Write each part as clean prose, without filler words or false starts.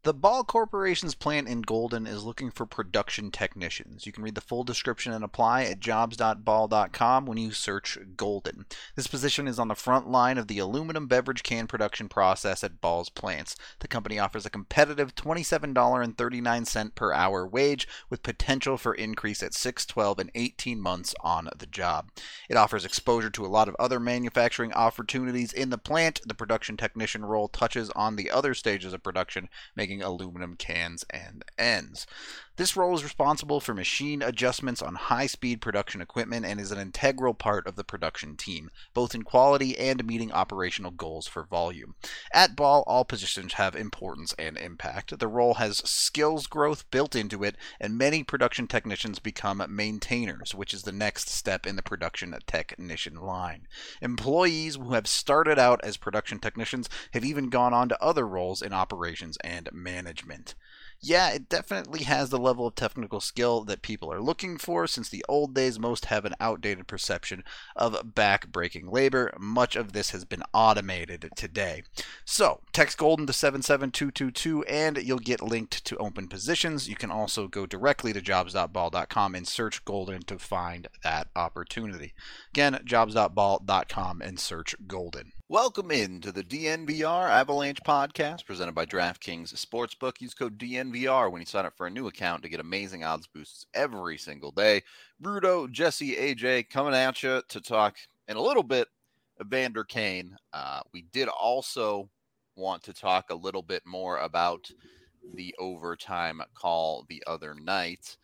The Ball Corporation's plant in Golden is looking for production technicians. You can read the full description and apply at jobs.ball.com when you search Golden. This position is on the front line of the aluminum beverage can production process at Ball's plants. The company offers a competitive $27.39 per hour wage with potential for increase at 6, 12, and 18 months on the job. It offers exposure to a lot of other manufacturing opportunities in the plant. The production technician role touches on the other stages of production, making aluminum cans and ends. This role is responsible for machine adjustments on high-speed production equipment and is an integral part of the production team, both in quality and meeting operational goals for volume. At Ball, all positions have importance and impact. The role has skills growth built into it, and many production technicians become maintainers, which is the next step in the production technician line. Employees who have started out as production technicians have even gone on to other roles in operations and management. Yeah, it definitely has the level of technical skill that people are looking for. Since the old days, most have an outdated perception of back-breaking labor. Much of this has been automated today. So, text Golden to 77222 and you'll get linked to open positions. You can also go directly to jobs.ball.com and search Golden to find that opportunity. Again, jobs.ball.com and search Golden. Welcome into the DNVR Avalanche podcast presented by DraftKings Sportsbook. Use code DNVR when you sign up for a new account to get amazing odds boosts every single day. Bruto, Jesse, AJ coming at you to talk in a little bit of Vander Kane. We did also want to talk a little bit more about the overtime call the other night.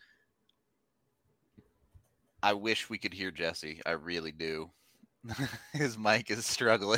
I wish we could hear Jesse. I really do. His mic is struggling.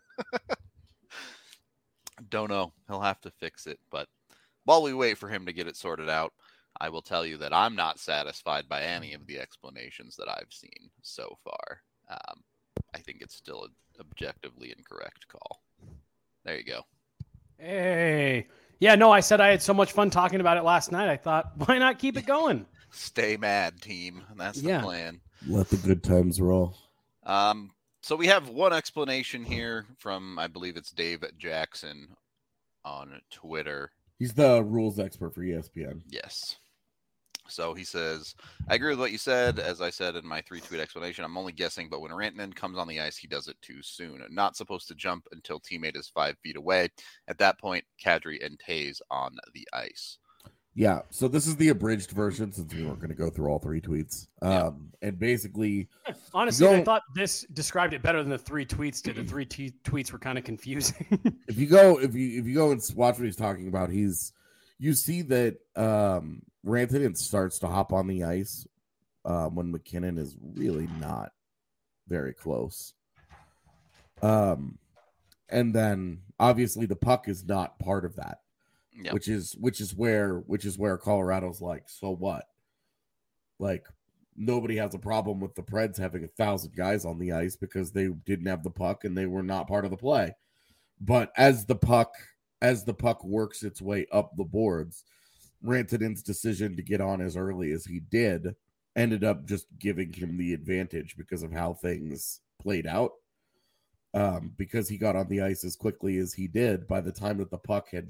Don't know. He'll have to fix it. But while we wait for him to get it sorted out, I will tell you that I'm not satisfied by any of the explanations that I've seen so far. I think it's still an objectively incorrect call. There you go. Hey. Yeah, no, I said I had so much fun talking about it last night. I thought, why not keep it going? Stay mad, team. That's the plan. Let the good times roll. So we have one explanation here from, I believe it's Dave Jackson on Twitter. He's the rules expert for ESPN. Yes. So he says, I agree with what you said. As I said in my 3-tweet explanation, I'm only guessing, but when Rantanen comes on the ice, he does it too soon. Not supposed to jump until teammate is 5 feet away. At that point, Kadri and Taves on the ice. Yeah, so this is the abridged version since we weren't going to go through all 3 tweets. And basically, honestly, I thought this described it better than the 3 tweets did. The 3 tweets were kind of confusing. if you go and watch what he's talking about, you see that Rantanen starts to hop on the ice when McKinnon is really not very close. And then obviously the puck is not part of that. Yep. Which is where Colorado's like, so what? Like, nobody has a problem with the Preds having 1,000 guys on the ice because they didn't have the puck and they were not part of the play. But as the puck works its way up the boards, Rantanen's decision to get on as early as he did ended up just giving him the advantage because of how things played out. Because he got on the ice as quickly as he did, by the time that the puck had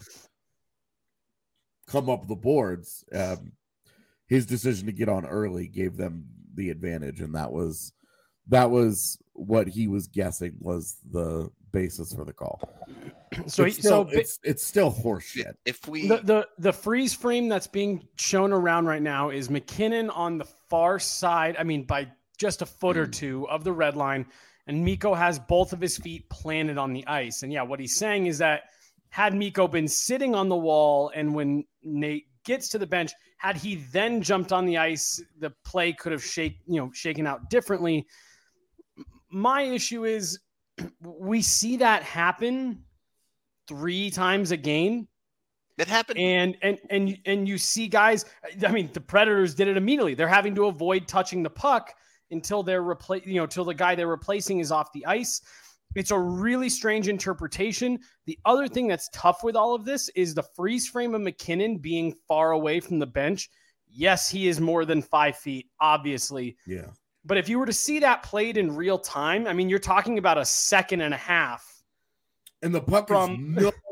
come up the boards, his decision to get on early gave them the advantage, and that was what he was guessing was the basis for the call. So it's still horseshit. If we the freeze frame that's being shown around right now is McKinnon on the far side, I mean by just a foot or two of the red line, and Mikko has both of his feet planted on the ice. And yeah, what he's saying is that had Mikko been sitting on the wall and when Nate gets to the bench, had he then jumped on the ice, the play could have shaken out differently. My issue is we see that happen 3 times a game. It happened. And you see guys, I mean, the Predators did it immediately. They're having to avoid touching the puck until till the guy they're replacing is off the ice. It's a really strange interpretation. The other thing that's tough with all of this is the freeze frame of McKinnon being far away from the bench. Yes, he is more than 5 feet, obviously. Yeah. But if you were to see that played in real time, I mean, you're talking about a second and a half. And the puck is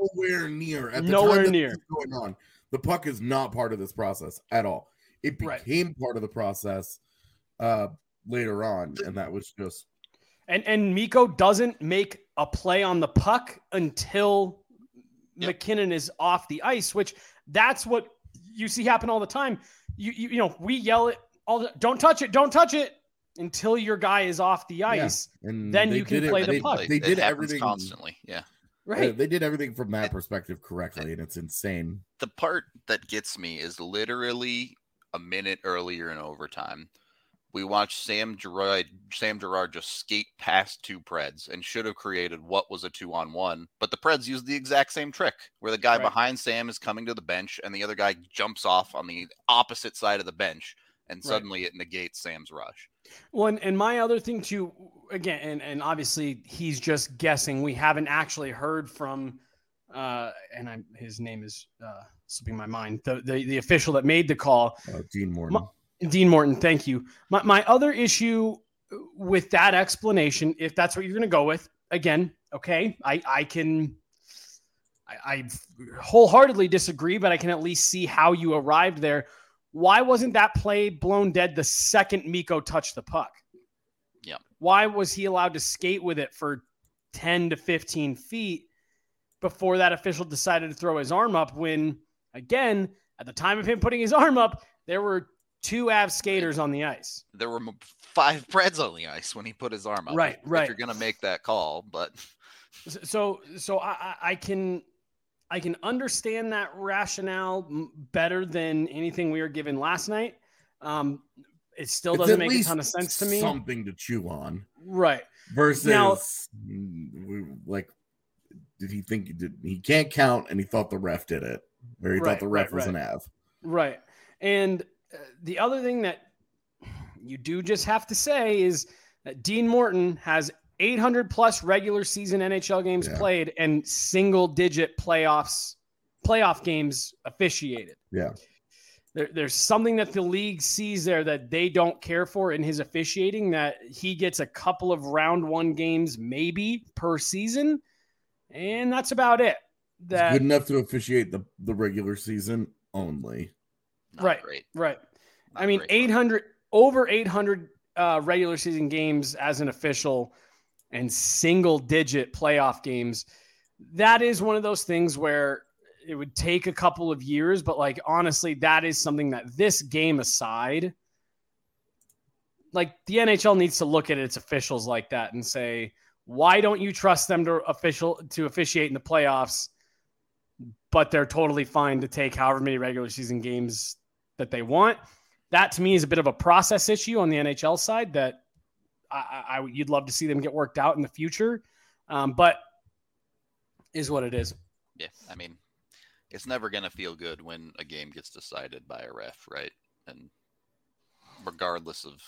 nowhere near at the Nowhere time that near. this is going on. The puck is not part of this process at all. It Right. became part of the process later on, and that was just. And Mikko doesn't make a play on the puck until McKinnon is off the ice, which that's what you see happen all the time. You know, we yell it all the, don't touch it until your guy is off the ice. Yeah. And then you can play the puck. They did happens everything constantly. Yeah. Right. They did everything from that perspective correctly, and it's insane. The part that gets me is literally a minute earlier in overtime. We watched Sam Girard just skate past two Preds and should have created what was a 2-on-1, but the Preds used the exact same trick where the guy behind Sam is coming to the bench and the other guy jumps off on the opposite side of the bench, and suddenly it negates Sam's rush. Well, and my other thing too, again, and obviously he's just guessing. We haven't actually heard from, his name is slipping my mind. The official that made the call, Dean Morton. Dean Morton, thank you. My other issue with that explanation, if that's what you're going to go with, again, okay, I wholeheartedly disagree, but I can at least see how you arrived there. Why wasn't that play blown dead the second Mikko touched the puck? Yeah. Why was he allowed to skate with it for 10 to 15 feet before that official decided to throw his arm up when, again, at the time of him putting his arm up, there were two Avs skaters on the ice. There were 5 Preds on the ice when he put his arm up. Right. If you're going to make that call, but so I can understand that rationale better than anything we were given last night. It still doesn't make a ton of sense to me. Something to chew on, right? Versus, now, did he think he can't count, and he thought the ref did it, or he thought the ref was an Av, right? And the other thing that you do just have to say is that Dean Morton has 800 plus regular season NHL games played and single digit playoff games officiated. Yeah. There's something that the league sees there that they don't care for in his officiating, that he gets a couple of round one games maybe per season. And that's about it. It's good enough to officiate the regular season only. Not great. Right. Not I mean, great. over 800 regular season games as an official and single digit playoff games. That is one of those things where it would take a couple of years, but like, honestly, that is something that this game aside, like the NHL needs to look at its officials like that and say, why don't you trust them to officiate in the playoffs, but they're totally fine to take however many regular season games that they want? That to me is a bit of a process issue on the NHL side that you'd love to see them get worked out in the future. But is what it is. Yeah. I mean, it's never going to feel good when a game gets decided by a ref, right? And regardless of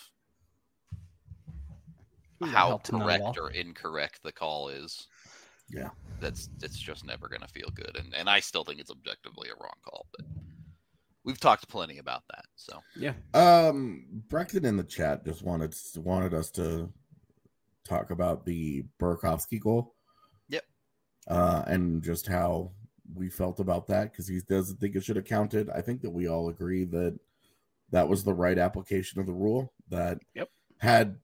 how correct or incorrect the call is, it's just never going to feel good. And I still think it's objectively a wrong call, but we've talked plenty about that. So yeah. Brecton in the chat just wanted us to talk about the Burakovsky goal. Yep. And just how we felt about that, because he doesn't think it should have counted. I think that we all agree that that was the right application of the rule. That had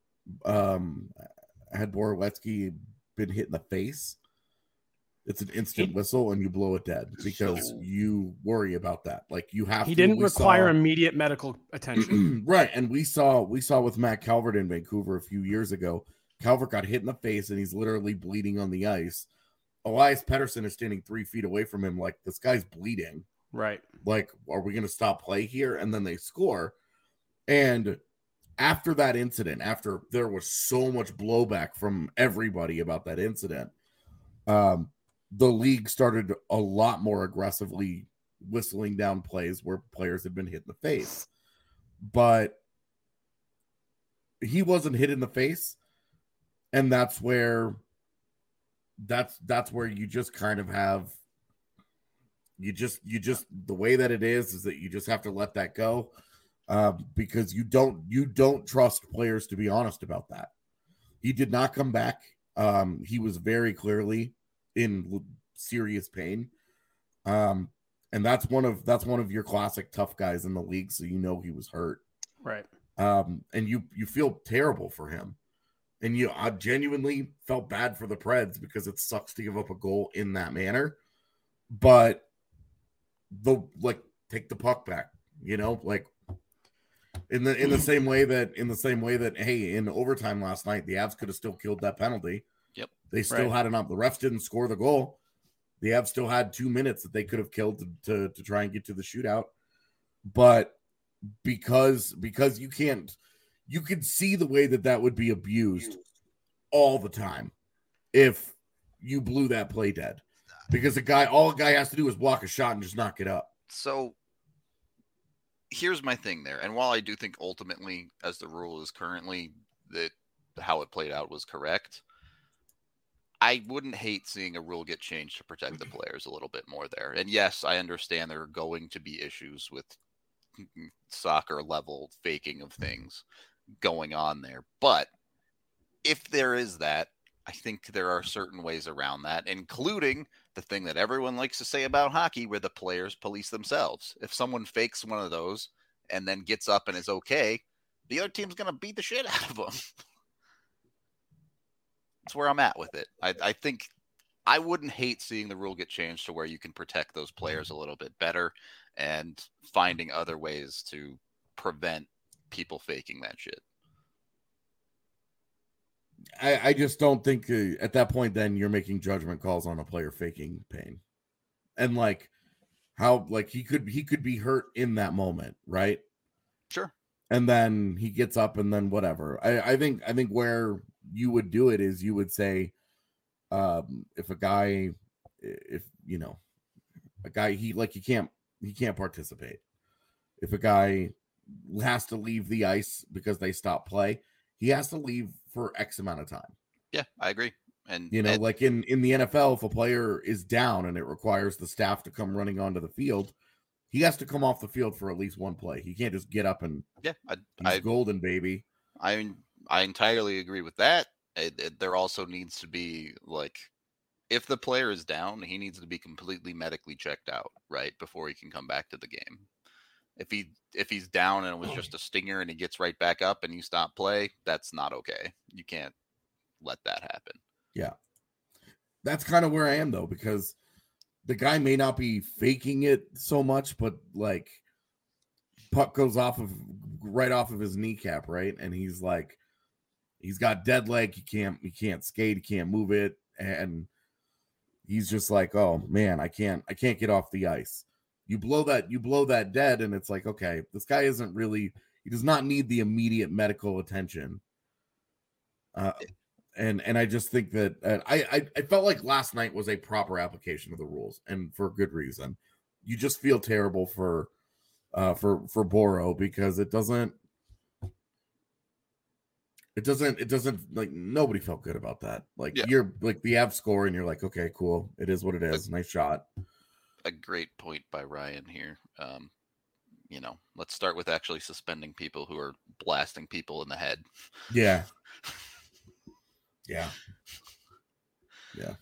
Borowiecki been hit in the face, it's an instant whistle and you blow it dead, because you worry about that. Like, you have. He didn't require immediate medical attention, right? And we saw with Matt Calvert in Vancouver a few years ago. Calvert got hit in the face and he's literally bleeding on the ice. Elias Pettersson is standing 3 feet away from him, like, this guy's bleeding. Right. Like, are we going to stop play here? And then they score. And after that incident, after there was so much blowback from everybody about that incident, the league started a lot more aggressively whistling down plays where players had been hit in the face. But he wasn't hit in the face. And that's where you just kind of have, you just the way that it is that you just have to let that go, because you don't trust players to be honest about that. He did not come back. He was very clearly in serious pain. And that's one of your classic tough guys in the league, so you know he was hurt. Right. And you feel terrible for him. And I genuinely felt bad for the Preds because it sucks to give up a goal in that manner. But take the puck back, like in the same way that hey, in overtime last night, the Avs could have still killed that penalty. Yep. They still had enough. The refs didn't score the goal. The Avs still had 2 minutes that they could have killed to try and get to the shootout. But because you could see the way that would be abused all the time if you blew that play dead. Because all a guy has to do is block a shot and just knock it up. So here's my thing there. And while I do think ultimately, as the rule is currently, that how it played out was correct, I wouldn't hate seeing a rule get changed to protect the players a little bit more there. And yes, I understand there are going to be issues with soccer level faking of things going on there. But if there is that, I think there are certain ways around that, including the thing that everyone likes to say about hockey, where the players police themselves. If someone fakes one of those and then gets up and is okay, the other team's going to beat the shit out of them. That's where I'm at with it. I think I wouldn't hate seeing the rule get changed to where you can protect those players a little bit better and finding other ways to prevent people faking that shit. I just don't think at that point then you're making judgment calls on a player faking pain. And how he could be hurt in that moment, right? Sure. And then he gets up and then whatever. I think where you would do it is you would say if a guy he can't participate. If a guy has to leave the ice because they stop play, he has to leave for X amount of time. Yeah, I agree. And like in the NFL, if a player is down and it requires the staff to come running onto the field, he has to come off the field for at least one play. He can't just get up and he's golden, baby. I entirely agree with that. There also needs to be if the player is down, he needs to be completely medically checked out right before he can come back to the game. If he's down and it was just a stinger and he gets right back up and you stop play, that's not okay. You can't let that happen. Yeah. That's kind of where I am though, because the guy may not be faking it so much, but puck goes right off of his kneecap, right? And he's got dead leg, he can't skate, he can't move it, and he's just oh man, I can't get off the ice. You blow that dead, and it's okay, this guy he does not need the immediate medical attention. And I just think that I felt like last night was a proper application of the rules, and for good reason. You just feel terrible for Boro because it doesn't nobody felt good about that. You're the Avs score and you're okay, cool. It is what it is. Nice shot. A great point by Ryan here. Let's start with actually suspending people who are blasting people in the head. Yeah. Yeah. Yeah.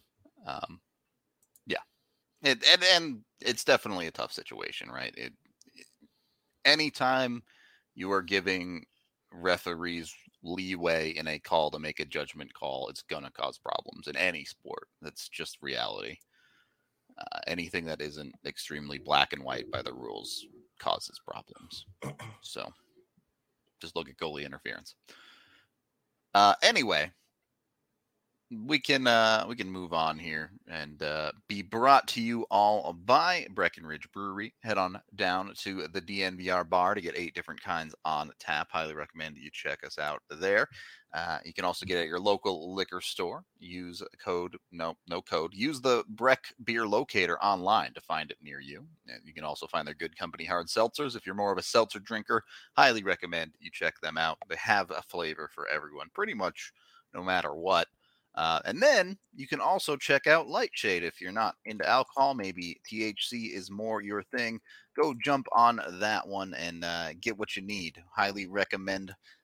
And it's definitely a tough situation, right? Anytime you are giving referees leeway in a call to make a judgment call, it's going to cause problems in any sport. That's just reality. Anything that isn't extremely black and white by the rules causes problems. So just look at goalie interference. Anyway, we can move on here and be brought to you all by Breckenridge Brewery. Head on down to the DNVR bar to get 8 different kinds on tap. Highly recommend that you check us out there. You can also get it at your local liquor store. Use use the Breck Beer Locator online to find it near you. And you can also find their Good Company hard seltzers. If you're more of a seltzer drinker, highly recommend you check them out. They have a flavor for everyone, pretty much no matter what. And then you can also check out Lightshade. If you're not into alcohol, maybe THC is more your thing, go jump on that one and get what you need. Highly recommend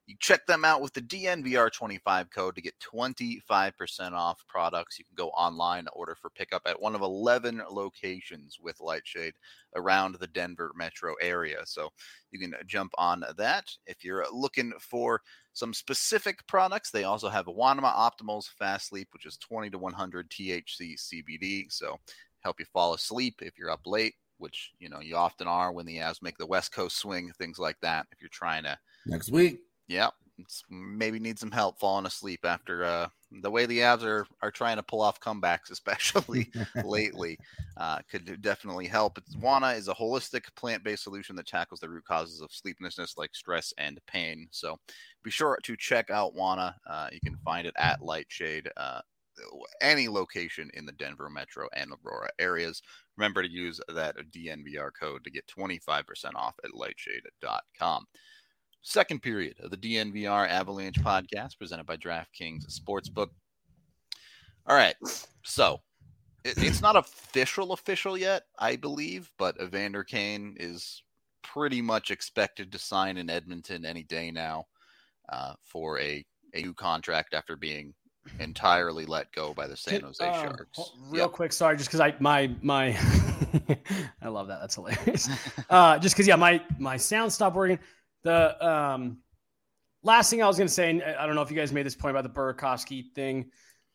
You check them out with the DNVR25 code to get 25% off products. You can go online, order for pickup at one of 11 locations with Lightshade around the Denver metro area. So you can jump on that. If you're looking for some specific products, they also have Wanema Optimals Fast Sleep, which is 20 to 100 THC CBD. So help you fall asleep if you're up late, which, you often are when the Avs make the West Coast swing, things like that. If you're trying to next week. Yeah, maybe need some help falling asleep after the way the Avs are trying to pull off comebacks, especially lately, could definitely help. Wana is a holistic plant-based solution that tackles the root causes of sleeplessness like stress and pain. So be sure to check out Wana. You can find it at Lightshade, any location in the Denver metro and Aurora areas. Remember to use that DNVR code to get 25% off at lightshade.com. Second period of the DNVR Avalanche podcast presented by DraftKings Sportsbook. All right, so it's not official yet, I believe, but Evander Kane is pretty much expected to sign in Edmonton any day now for a new contract after being entirely let go by the San Jose Sharks. Real quick, sorry, just because my I love that. That's hilarious. Just because my sound stopped working. The last thing I was going to say, and I don't know if you guys made this point about the Burakovsky thing.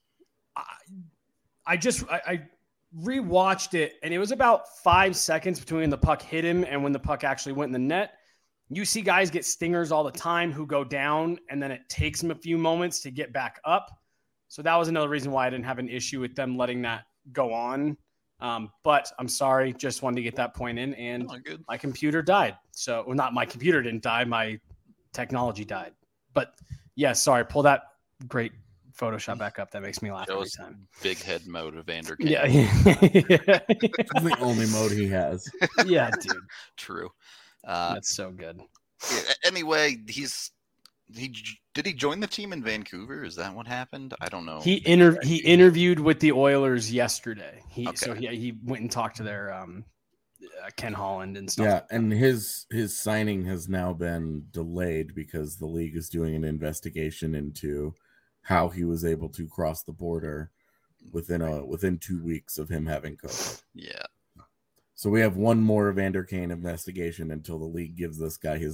I rewatched it, and it was about 5 seconds between the puck hit him and when the puck actually went in the net. You see guys get stingers all the time who go down, and then it takes them a few moments to get back up. So that was another reason why I didn't have an issue with them letting that go on. But I'm sorry, just wanted to get that point in, and my computer died. So, well, not my computer didn't die, my technology died. But yeah, sorry, pull that great Photoshop back up. That makes me laugh every time. Big head mode of Evander Kane. Yeah. That's the only mode he has. Yeah, dude. True. That's so good. Anyway, did he join the team in Vancouver? Is that what happened? I don't know. He interviewed with the Oilers yesterday. So he went and talked to their Ken Holland and stuff. Yeah, and his signing has now been delayed because the league is doing an investigation into how he was able to cross the border within 2 weeks of him having COVID. Yeah. So we have one more Evander Kane investigation until the league gives this guy his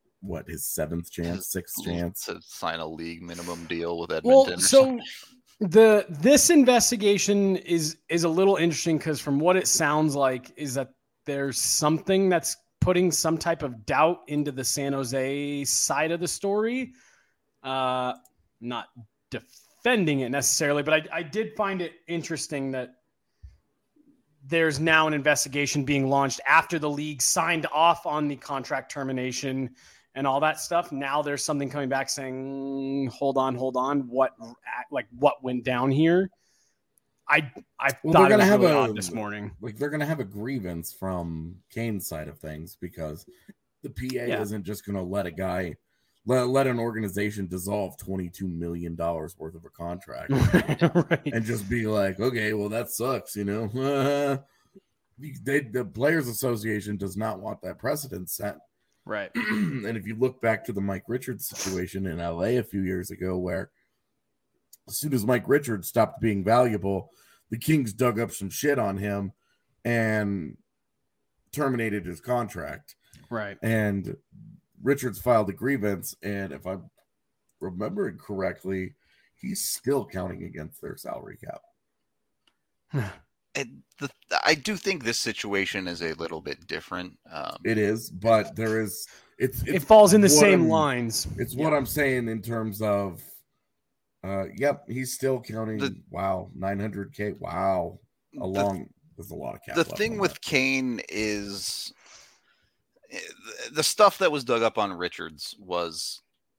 sixth chance to sign a league minimum deal with Edmonton. Well, so this investigation is a little interesting because from what it sounds like is that there's something that's putting some type of doubt into the San Jose side of the story. Not defending it necessarily, but I did find it interesting that there's now an investigation being launched after the league signed off on the contract termination and all that stuff. Now there's something coming back saying, hold on. What went down here? I thought it was really odd this morning. Like they're going to have a grievance from Kane's side of things because the PA isn't just going to let a guy, let an organization dissolve $22 million worth of a contract right. and just be like, okay, well that sucks. The Players Association does not want that precedent set. Right. And if you look back to the Mike Richards situation in LA a few years ago, where as soon as Mike Richards stopped being valuable, the Kings dug up some shit on him and terminated his contract. Right. And Richards filed a grievance, and if I'm remembering correctly, he's still counting against their salary cap. I do think this situation is a little bit different. It is, but it falls in the same lines. It's what I'm saying in terms of, he's still counting. Wow, $900K. Wow, there's a lot of cap. The thing with Kane is the stuff that was dug up on Richards was,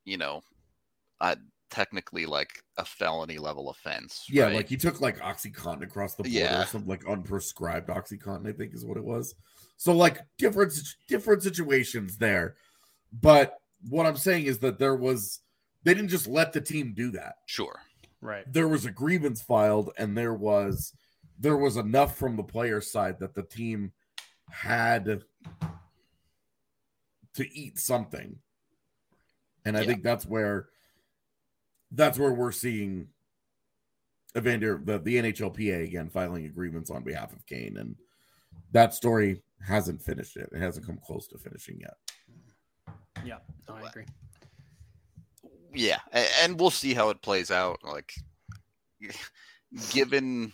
technically like a felony level offense. Yeah, right? like he took like OxyContin across the border, or something like unprescribed OxyContin, I think is what it was. So like different situations there. But what I'm saying is that they didn't just let the team do that. Sure. Right. There was a grievance filed, and there was enough from the player side that the team had to eat something. And I think that's where we're seeing Evander, the NHLPA again, filing agreements on behalf of Kane. And that story hasn't finished yet. It hasn't come close to finishing yet. Yeah, no, I agree. Yeah, and we'll see how it plays out. Like, given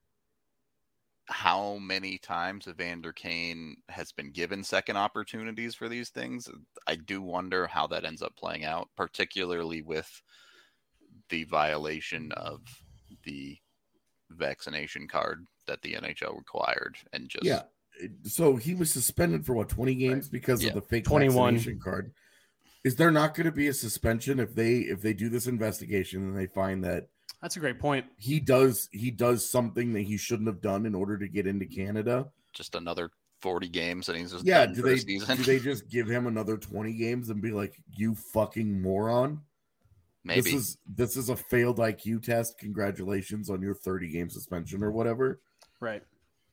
how many times Evander Kane has been given second opportunities for these things, I do wonder how that ends up playing out, particularly with the violation of the vaccination card that the NHL required. And just so he was suspended for 20 games because of the fake 21 vaccination card. Is there not going to be a suspension if they do this investigation and they find that? That's a great point. He does something that he shouldn't have done in order to get into Canada. Just another 40 games and he's just done for the season. Do they just give him another 20 games and be like, you fucking moron? Maybe this is a failed IQ test. Congratulations on your 30-game suspension or whatever. Right.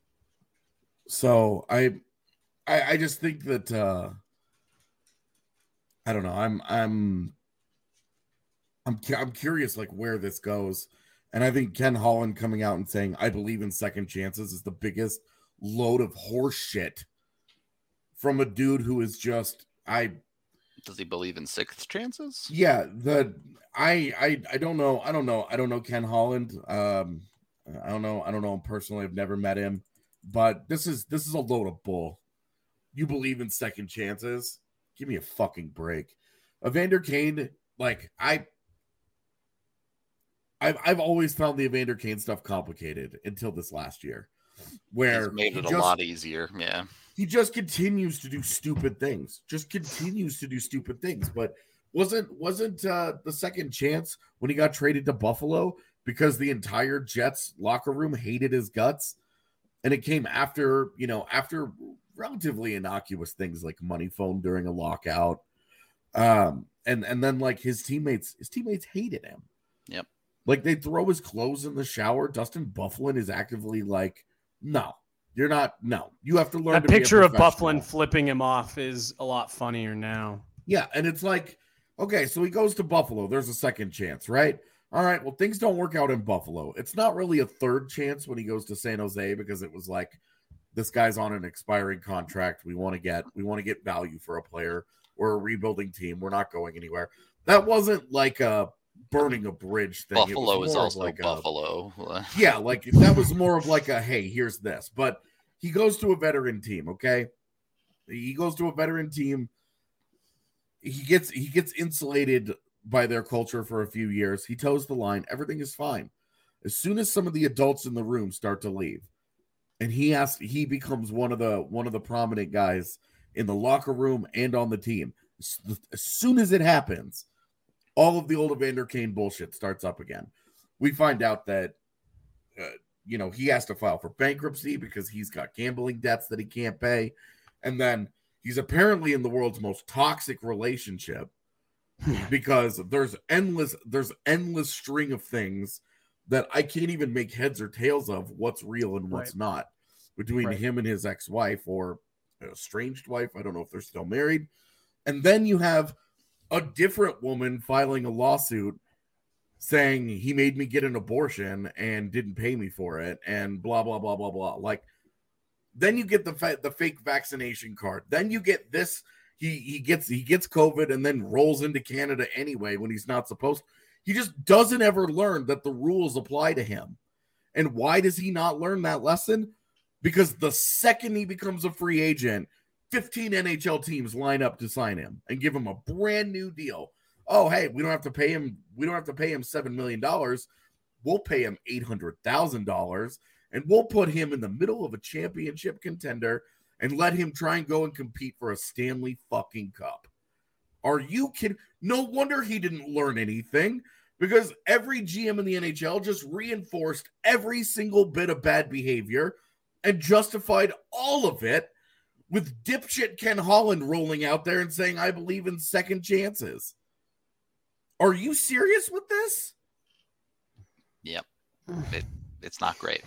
So I just think that I don't know. I'm curious like where this goes. And I think Ken Holland coming out and saying, I believe in second chances is the biggest load of horse shit from a dude who is just, does he believe in sixth chances? Yeah. I don't know. I don't know Ken Holland. I don't know him personally. I've never met him, but this is a load of bull. You believe in second chances? Give me a fucking break. Evander Kane, like I've always found the Evander Kane stuff complicated until this last year, where he's made it a lot easier. Yeah, he just continues to do stupid things. But wasn't the second chance when he got traded to Buffalo because the entire Jets locker room hated his guts, and it came after relatively innocuous things like money phone during a lockout, and then like his teammates hated him. Yep. Like they throw his clothes in the shower. Dustin Byfuglien is actively like, no, you're not. No, you have to learn. That picture of Byfuglien flipping him off is a lot funnier now. Yeah, and it's like, okay, so he goes to Buffalo. There's a second chance, right? All right, well, things don't work out in Buffalo. It's not really a third chance when he goes to San Jose because it was like, this guy's on an expiring contract. We want to get value for a player. We're a rebuilding team. We're not going anywhere. That wasn't like a burning a bridge thing. Buffalo is also like Buffalo. Yeah, like that was more of like a, hey, here's this. But he goes to a veteran team, okay? He goes to a veteran team. He gets insulated by their culture for a few years. He toes the line. Everything is fine. As soon as some of the adults in the room start to leave, and he becomes one of the prominent guys in the locker room and on the team. As soon as it happens, all of the old Evander Kane bullshit starts up again. We find out that, he has to file for bankruptcy because he's got gambling debts that he can't pay. And then he's apparently in the world's most toxic relationship because there's endless string of things that I can't even make heads or tails of what's real and what's not between him and his ex-wife or estranged wife. I don't know if they're still married. And then you have a different woman filing a lawsuit saying he made me get an abortion and didn't pay me for it and blah, blah, blah, blah, blah. Like, then you get the fake vaccination card. Then you get this. He gets COVID and then rolls into Canada anyway when he's not supposed to. He just doesn't ever learn that the rules apply to him. And why does he not learn that lesson? Because the second he becomes a free agent, 15 NHL teams line up to sign him and give him a brand new deal. Oh, hey, we don't have to pay him $7 million. We'll pay him $800,000 and we'll put him in the middle of a championship contender and let him try and go and compete for a Stanley fucking Cup. Are you kidding? No wonder he didn't learn anything, because every GM in the NHL just reinforced every single bit of bad behavior and justified all of it with dipshit Ken Holland rolling out there and saying, I believe in second chances. Are you serious with this? Yep. It's not great.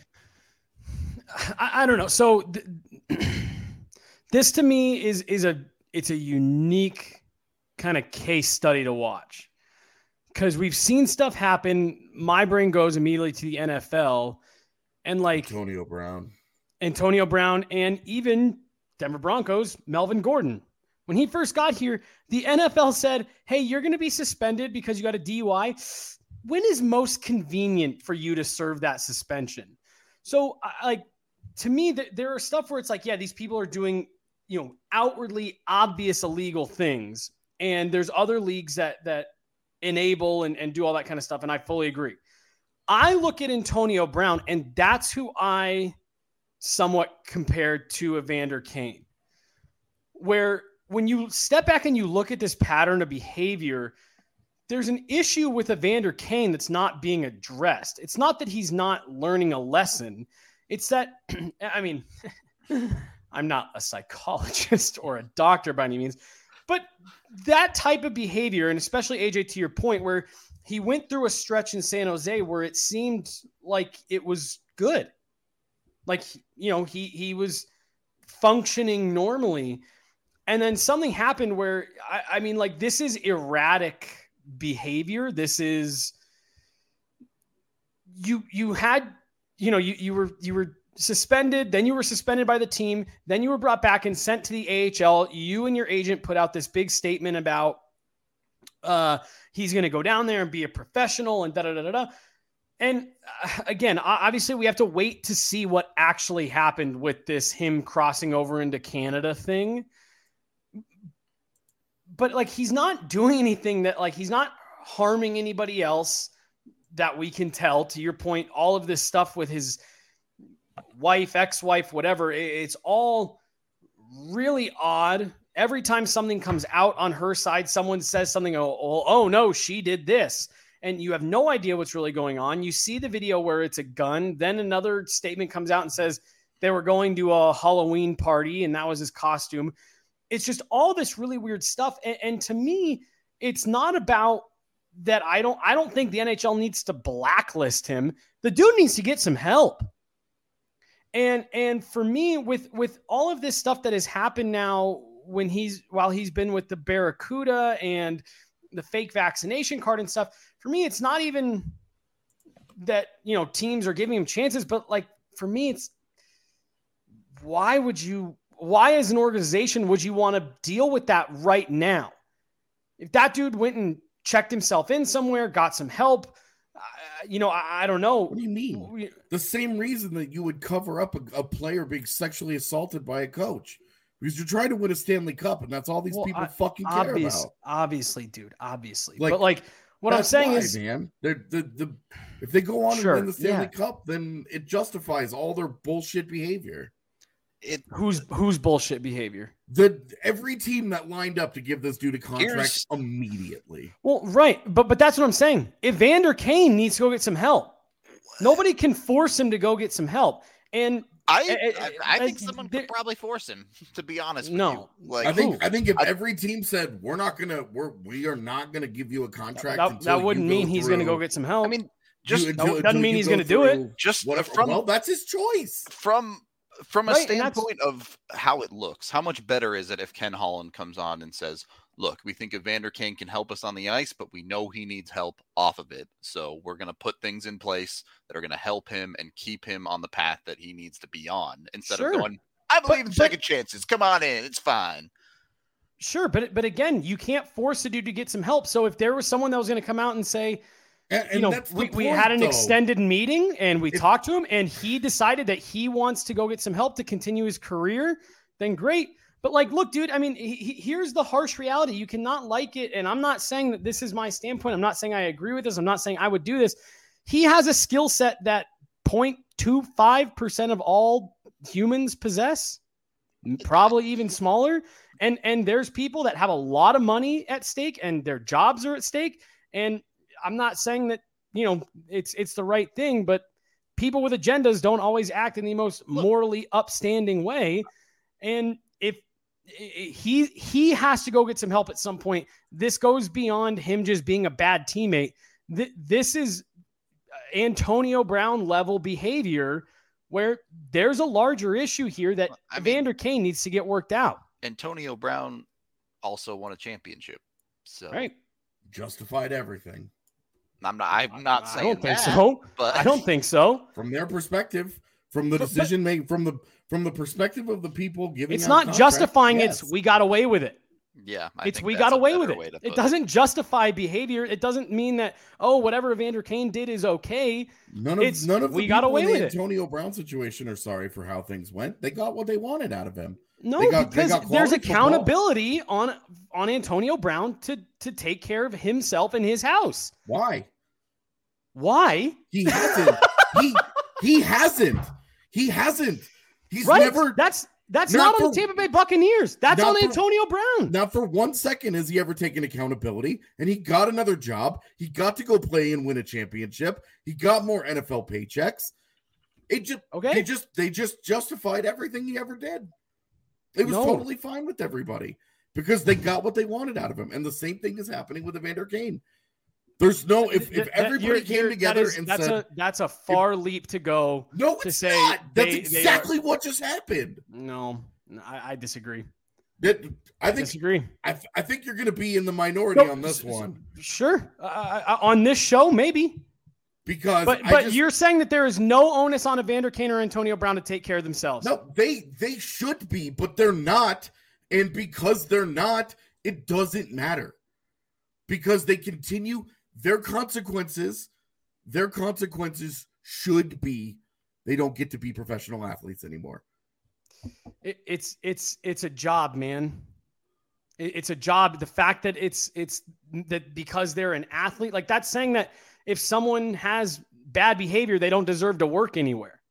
I don't know. So this to me is a unique kind of case study to watch, because we've seen stuff happen. My brain goes immediately to the NFL and like Antonio Brown, and even Denver Broncos, Melvin Gordon. When he first got here, the NFL said, hey, you're going to be suspended because you got a DUI. When is most convenient for you to serve that suspension? So, like, to me, there are stuff where it's like, yeah, these people are doing, outwardly obvious illegal things. And there's other leagues that enable and do all that kind of stuff. And I fully agree. I look at Antonio Brown, and that's who I somewhat compared to Evander Kane, where when you step back and you look at this pattern of behavior, there's an issue with Evander Kane that's not being addressed. It's not that he's not learning a lesson. It's that, I mean, I'm not a psychologist or a doctor by any means, but that type of behavior, and especially AJ, to your point, where he went through a stretch in San Jose where it seemed like it was good. Like, he was functioning normally. And then something happened where, I mean, like, this is erratic behavior. This is, you were suspended, then you were suspended by the team, then you were brought back and sent to the AHL. You and your agent put out this big statement about he's going to go down there and be a professional and da-da-da-da-da. And again, obviously we have to wait to see what actually happened with this him crossing over into Canada thing. But like, he's not doing anything that, like, he's not harming anybody else that we can tell. To your point, all of this stuff with his wife, ex-wife, whatever, it's all really odd. Every time something comes out on her side, someone says something, oh no, she did this. And you have no idea what's really going on. You see the video where it's a gun. Then another statement comes out and says they were going to a Halloween party and that was his costume. It's just all this really weird stuff. And to me, it's not about that. I don't think the NHL needs to blacklist him. The dude needs to get some help. And for me, with all of this stuff that has happened now, while he's been with the Barracuda and the fake vaccination card and stuff, for me, it's not even that, teams are giving him chances, but like, for me, it's why as an organization would you want to deal with that right now? If that dude went and checked himself in somewhere, got some help, I don't know. What do you mean? The same reason that you would cover up a player being sexually assaulted by a coach, because you're trying to win a Stanley Cup, and that's all these people fucking care about. Obviously, dude. Obviously, like, but like, what I'm saying is, man, if they go on and win the Stanley Cup, then it justifies all their bullshit behavior. Who's bullshit behavior? Every team that lined up to give this dude a contract immediately. Well, right, but that's what I'm saying. Evander Kane needs to go get some help. Nobody can force him to go get some help. And I think someone could probably force him, to be honest with you. Like, I think if every team said we are not gonna give you a contract, that wouldn't mean he's gonna go get some help. I mean, doesn't mean he's gonna do it. Just whatever. That's his choice. From a standpoint of how it looks, how much better is it if Ken Holland comes on and says, look, we think Evander Kane can help us on the ice, but we know he needs help off of it. So we're going to put things in place that are going to help him and keep him on the path that he needs to be on, instead of going, I believe in second chances. Come on in. It's fine. Sure. But again, you can't force a dude to get some help. So if there was someone that was going to come out and say, we had an extended meeting and we talked to him and he decided that he wants to go get some help to continue his career, then great. But like, look, dude, I mean, here's the harsh reality. You cannot like it. And I'm not saying that this is my standpoint. I'm not saying I agree with this. I'm not saying I would do this. He has a skill set that 0.25% of all humans possess, probably even smaller. And there's people that have a lot of money at stake and their jobs are at stake. And I'm not saying that, it's the right thing, but people with agendas don't always act in the most morally upstanding way. And if he has to go get some help at some point, this goes beyond him just being a bad teammate. This is Antonio Brown level behavior where there's a larger issue here that Evander Kane needs to get worked out. Antonio Brown also won a championship. So Right. Justified everything. I'm not saying I don't think that, so. but I don't think so. From their perspective, from the decision made, from the perspective of the people giving, It's out not contracts, justifying yes. It's we got away with it. yeah, It's we got away with it. It doesn't justify behavior. It doesn't mean that, oh, whatever Evander Kane did is okay. None of we the got people away in the with it. Antonio Brown situation are sorry for how things went. They got what they wanted out of him. No, They got because there's quality accountability on Antonio Brown to take care of himself and his house. Why? Why? He hasn't. he hasn't. He hasn't. He's right. never. That's not not on for- the Tampa Bay Buccaneers. That's not on for- Antonio Brown. Not for 1 second has he ever taken accountability, and he got another job. He got to go play and win a championship. He got more NFL paychecks. It just Okay. they just justified everything he ever did. It was totally fine with everybody because they got what they wanted out of him. And the same thing is happening with Evander Kane. There's no if everybody came together and said that's a far leap to go. No, to it's say not. That's they exactly what just happened. No, I disagree. I think Disagree. I think you're going to be in the minority on this one. Sure, on this show maybe. Because but you're saying that there is no onus on Evander Kane or Antonio Brown to take care of themselves. No, they should be, but they're not. And because they're not, it doesn't matter. Because they continue their consequences should be they don't get to be professional athletes anymore. It's a job, man. It's a job. The fact that it's that because they're an athlete, like that's saying that if someone has bad behavior, they don't deserve to work anywhere.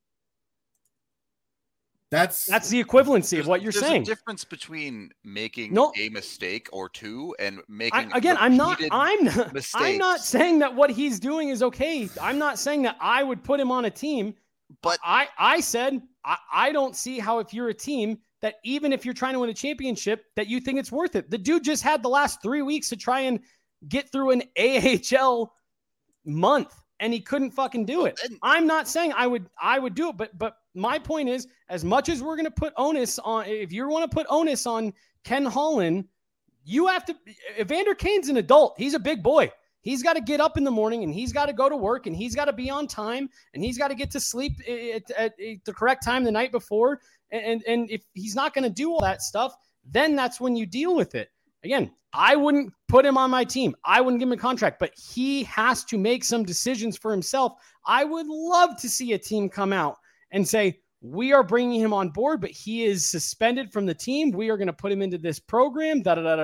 That's the equivalency of what you're saying. There's a difference between making a mistake or two and making I'm not mistakes. saying that what he's doing is okay. I'm not saying that I would put him on a team, but I said I don't see how if you're a team that even if you're trying to win a championship that you think it's worth it. The dude just had the last 3 weeks to try and get through an AHL month and he couldn't fucking do it. I'm not saying I would do it, but my point is, as much as we're going to put onus on, if you want to put onus on Ken Holland, you have to, Evander Kane's an adult. He's a big boy. He's got to get up in the morning and he's got to go to work and he's got to be on time and he's got to get to sleep at the correct time the night before. And if he's not going to do all that stuff, then that's when you deal with it. Again, I wouldn't put him on my team. I wouldn't give him a contract, but he has to make some decisions for himself. I would love to see a team come out and say, we are bringing him on board, but he is suspended from the team. We are going to put him into this program.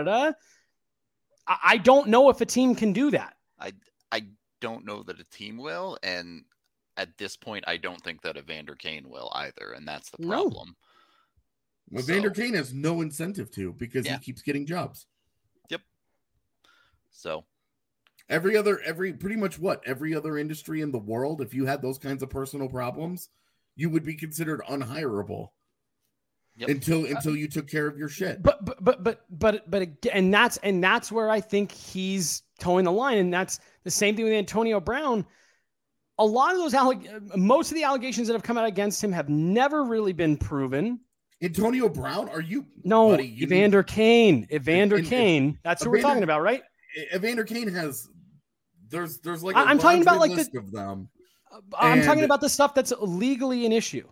I don't know if a team can do that. I don't know that a team will. And at this point, I don't think that Evander Kane will either. And that's the problem. Well, Evander Kane has no incentive to because he keeps getting jobs. Yep. So every other industry in the world, if you had those kinds of personal problems, you would be considered unhireable. Yep. Until you took care of your shit. But again, and that's where I think he's towing the line, and that's the same thing with Antonio Brown. A lot of those most of the allegations that have come out against him have never really been proven. Antonio Brown, are you? No, buddy, Evander Kane. Evander Kane. That's who we're talking about, right? Evander Kane has. There's like I'm talking about like list of them. I'm talking about the stuff that's legally an issue.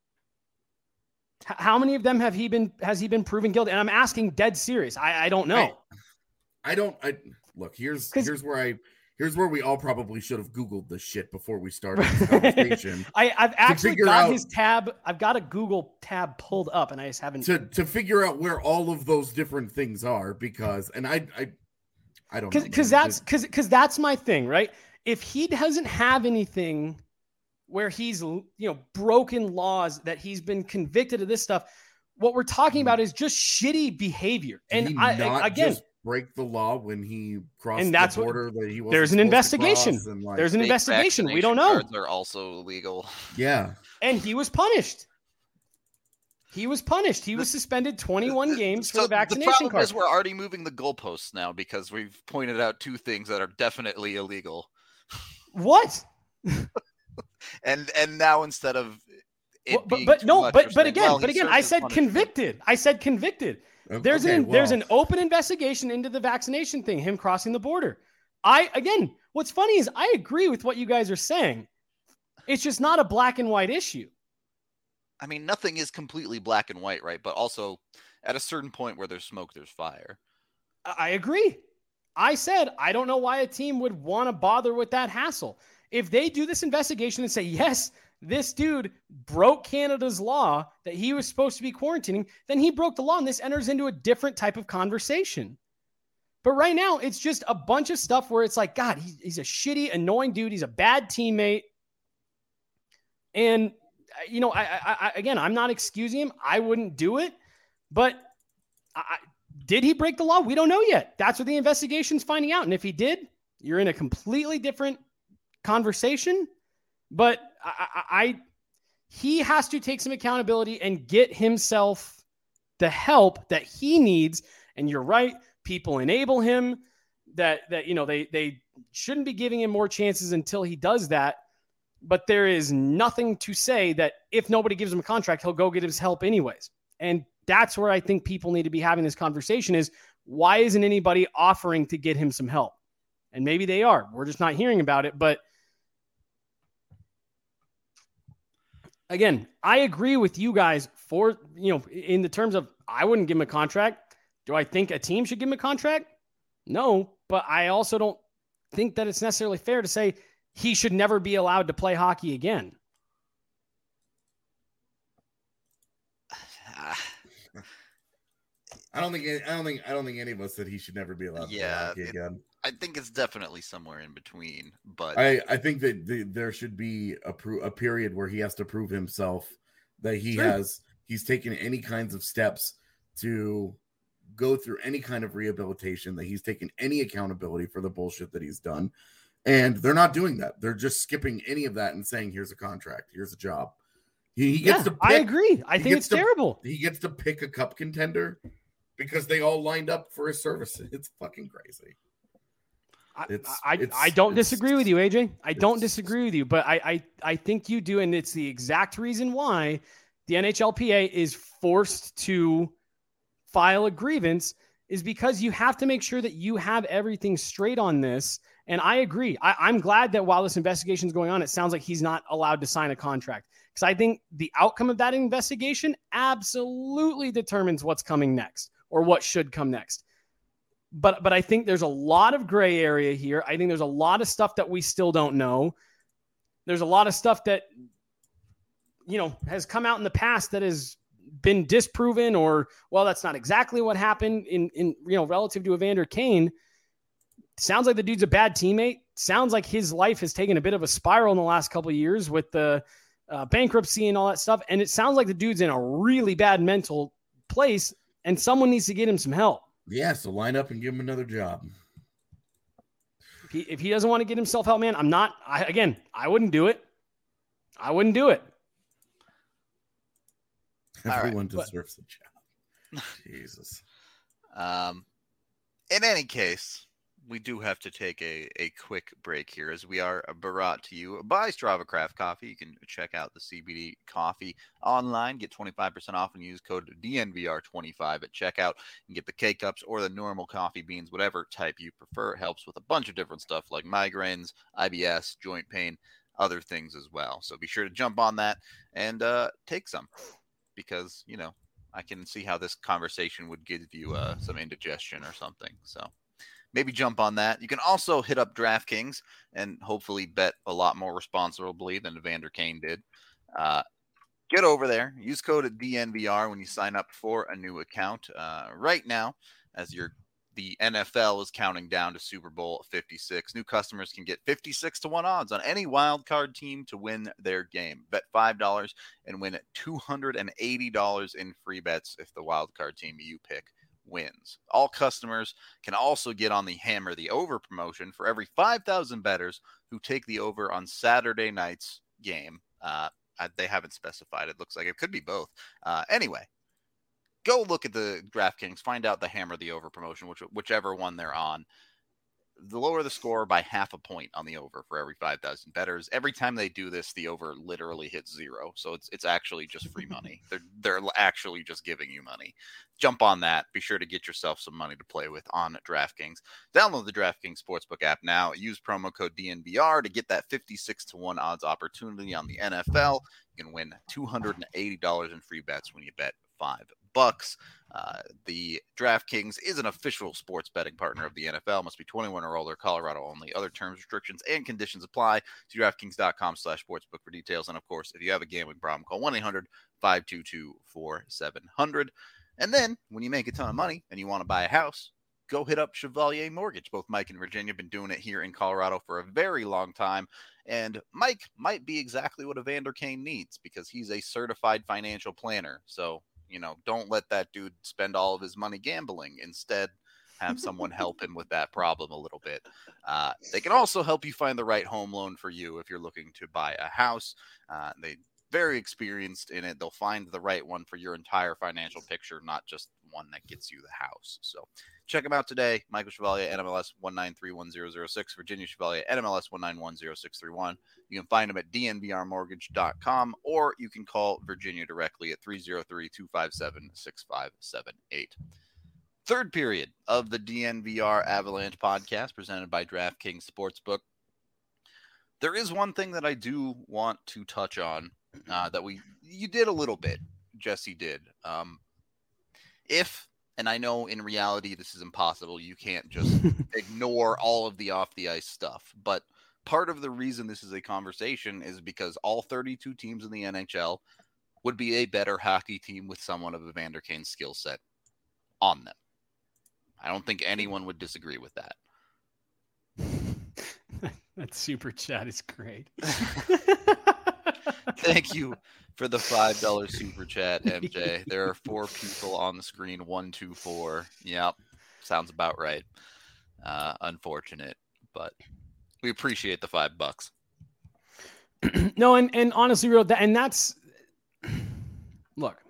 How many of them has he been proven guilty? And I'm asking dead serious. I don't know. Look, here's where we all probably should have Googled this shit before we started this conversation. I've actually got his tab. I've got a Google tab pulled up and I just haven't to figure out where all of those different things are because I don't know. Because that's my thing, right? If he doesn't have anything where he's broken laws that he's been convicted of this stuff, what we're talking about is just shitty behavior. And just break the law when he crossed the border that he wasn't. There's an investigation. There's an investigation. We don't know. Cards are also illegal. Yeah. And he was punished. He was suspended 21 games for the vaccination card. The problem is we're already moving the goalposts now because we've pointed out two things that are definitely illegal. What? and now instead of again, I said convicted. There's an open investigation into the vaccination thing, him crossing the border. What's funny is I agree with what you guys are saying. It's just not a black and white issue. I mean, nothing is completely black and white, right? But also, at a certain point where there's smoke, there's fire. I agree. I said, I don't know why a team would want to bother with that hassle. If they do this investigation and say, yes, this dude broke Canada's law that he was supposed to be quarantining, then he broke the law, and this enters into a different type of conversation. But right now, it's just a bunch of stuff where it's like, God, he's a shitty, annoying dude. He's a bad teammate. And, you know, I'm not excusing him. I wouldn't do it. But did he break the law? We don't know yet. That's what the investigation's finding out. And if he did, you're in a completely different conversation. But he has to take some accountability and get himself the help that he needs. And you're right. People enable him that you know, they shouldn't be giving him more chances until he does that. But there is nothing to say that if nobody gives him a contract, he'll go get his help anyways. And that's where I think people need to be having this conversation is, why isn't anybody offering to get him some help? And maybe they are. We're just not hearing about it. But again, I agree with you guys for, you know, in the terms of, I wouldn't give him a contract. Do I think a team should give him a contract? No, but I also don't think that it's necessarily fair to say he should never be allowed to play hockey again. I don't think any of us said he should never be allowed to play hockey again. I think it's definitely somewhere in between, but I think that there should be a period where he has to prove himself that he's taken any kinds of steps to go through any kind of rehabilitation, that he's taken any accountability for the bullshit that he's done. And they're not doing that. They're just skipping any of that and saying, here's a contract, here's a job. He gets to pick, I agree. I think it's terrible. He gets to pick a cup contender because they all lined up for his services. It's fucking crazy. I don't disagree with you, AJ. I don't disagree with you, but I think you do, and it's the exact reason why the NHLPA is forced to file a grievance, is because you have to make sure that you have everything straight on this. And I agree. I'm glad that while this investigation is going on, it sounds like he's not allowed to sign a contract, because I think the outcome of that investigation absolutely determines what's coming next or what should come next. But I think there's a lot of gray area here. I think there's a lot of stuff that we still don't know. There's a lot of stuff that, you know, has come out in the past that has been disproven, or, well, that's not exactly what happened in you know, relative to Evander Kane. Sounds like the dude's a bad teammate. Sounds like his life has taken a bit of a spiral in the last couple of years with the bankruptcy and all that stuff. And it sounds like the dude's in a really bad mental place, and someone needs to get him some help. Yeah, so line up and give him another job. If he doesn't want to get himself help, man, I wouldn't do it. I wouldn't do it. Everyone deserves a job. Jesus. In any case, we do have to take a quick break here, as we are brought to you by Strava Craft Coffee. You can check out the CBD coffee online, get 25% off, and use code DNVR25 at checkout, and get the K-Cups or the normal coffee beans, whatever type you prefer. It helps with a bunch of different stuff like migraines, IBS, joint pain, other things as well. So be sure to jump on that and take some, because, you know, I can see how this conversation would give you some indigestion or something. So maybe jump on that. You can also hit up DraftKings and hopefully bet a lot more responsibly than Evander Kane did. Get over there. Use code DNVR when you sign up for a new account. Right now, as the NFL is counting down to Super Bowl 56, new customers can get 56-1 odds on any wild card team to win their game. Bet $5 and win $280 in free bets if the wild card team you pick wins. All customers can also get on the Hammer the Over promotion for every 5,000 bettors who take the over on Saturday night's game. They haven't specified. It looks like it could be both. Anyway, go look at the DraftKings, find out the Hammer the Over promotion, whichever one they're on. the lower the score by half a point on the over for every 5,000 bettors. Every time they do this, the over literally hits 0. So it's actually just free money. They're actually just giving you money. Jump on that. Be sure to get yourself some money to play with on DraftKings. Download the DraftKings Sportsbook app now. Use promo code DNVR to get that 56-1 odds opportunity on the NFL. You can win $280 in free bets when you bet $5. The DraftKings is an official sports betting partner of the NFL. Must be 21 or older. Colorado only. Other terms, restrictions, and conditions apply. To DraftKings.com/sportsbook for details. And of course, if you have a gambling problem, call 1-800-522-4700. And then when you make a ton of money and you want to buy a house, go hit up Chevalier Mortgage. Both Mike and Virginia have been doing it here in Colorado for a very long time. And Mike might be exactly what Evander Kane needs because he's a certified financial planner. So, don't let that dude spend all of his money gambling. Instead, have someone help him with that problem a little bit. They can also help you find the right home loan for you if you're looking to buy a house. They're very experienced in it. They'll find the right one for your entire financial picture, not just one that gets you the house. So check them out today. Michael Chevalier, NMLS 1931006. Virginia Chevalier, NMLS 1910631. You can find them at dnvrmortgage.com, or you can call Virginia directly at 303-257-6578. Third period of the DNVR Avalanche podcast presented by DraftKings Sportsbook. There is one thing that I do want to touch on that you did a little bit. Jesse did. And I know in reality this is impossible. You can't just ignore all of the off the ice stuff. But part of the reason this is a conversation is because all 32 teams in the NHL would be a better hockey team with someone of Evander Kane's skill set on them. I don't think anyone would disagree with that. That super chat is great. Thank you for the $5 super chat, MJ. There are 4 people on the screen. 1, 2, 4. Yep. Sounds about right. Unfortunate, but we appreciate the $5. No, and honestly, that's look,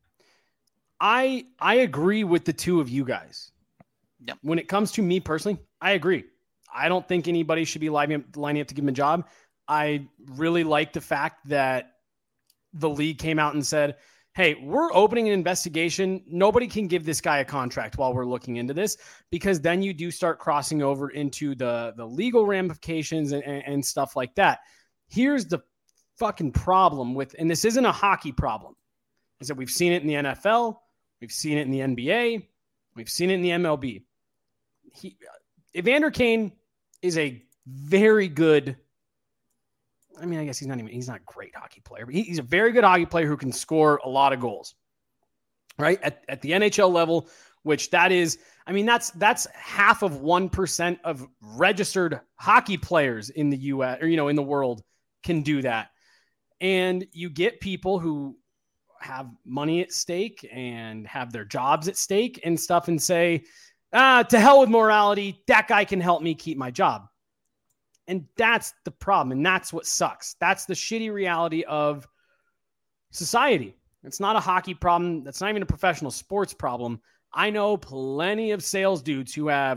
I agree with the two of you guys. Yep. When it comes to me personally, I agree. I don't think anybody should be lining up to give him a job. I really like the fact that the league came out and said, hey, we're opening an investigation. Nobody can give this guy a contract while we're looking into this, because then you do start crossing over into the legal ramifications and stuff like that. Here's the fucking problem with, and this isn't a hockey problem, is that we've seen it in the NFL. We've seen it in the NBA. We've seen it in the MLB. Evander Kane is a very good, I mean, I guess he's not a great hockey player, but he's a very good hockey player who can score a lot of goals, right? At the NHL level, which that is, I mean, that's half of 1% of registered hockey players in the US or, in the world can do that. And you get people who have money at stake and have their jobs at stake and stuff and say, to hell with morality. That guy can help me keep my job. And that's the problem. And that's what sucks. That's the shitty reality of society. It's not a hockey problem. That's not even a professional sports problem. I know plenty of sales dudes who have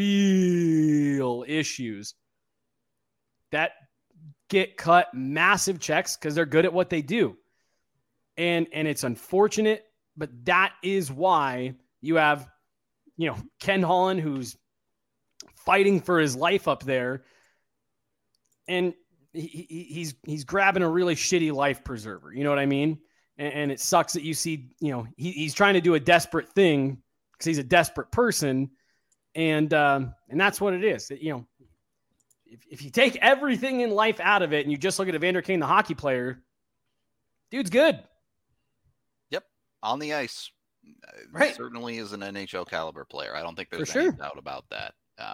real issues that get cut massive checks because they're good at what they do. And it's unfortunate, but that is why you have, Ken Holland, who's fighting for his life up there. And he's grabbing a really shitty life preserver. You know what I mean? And it sucks that you see, he's trying to do a desperate thing because he's a desperate person. And that's what it is. If you take everything in life out of it and you just look at Evander Kane, the hockey player, dude's good. Yep. On the ice. Right. Certainly is an NHL caliber player. I don't think there's For any sure. doubt about that.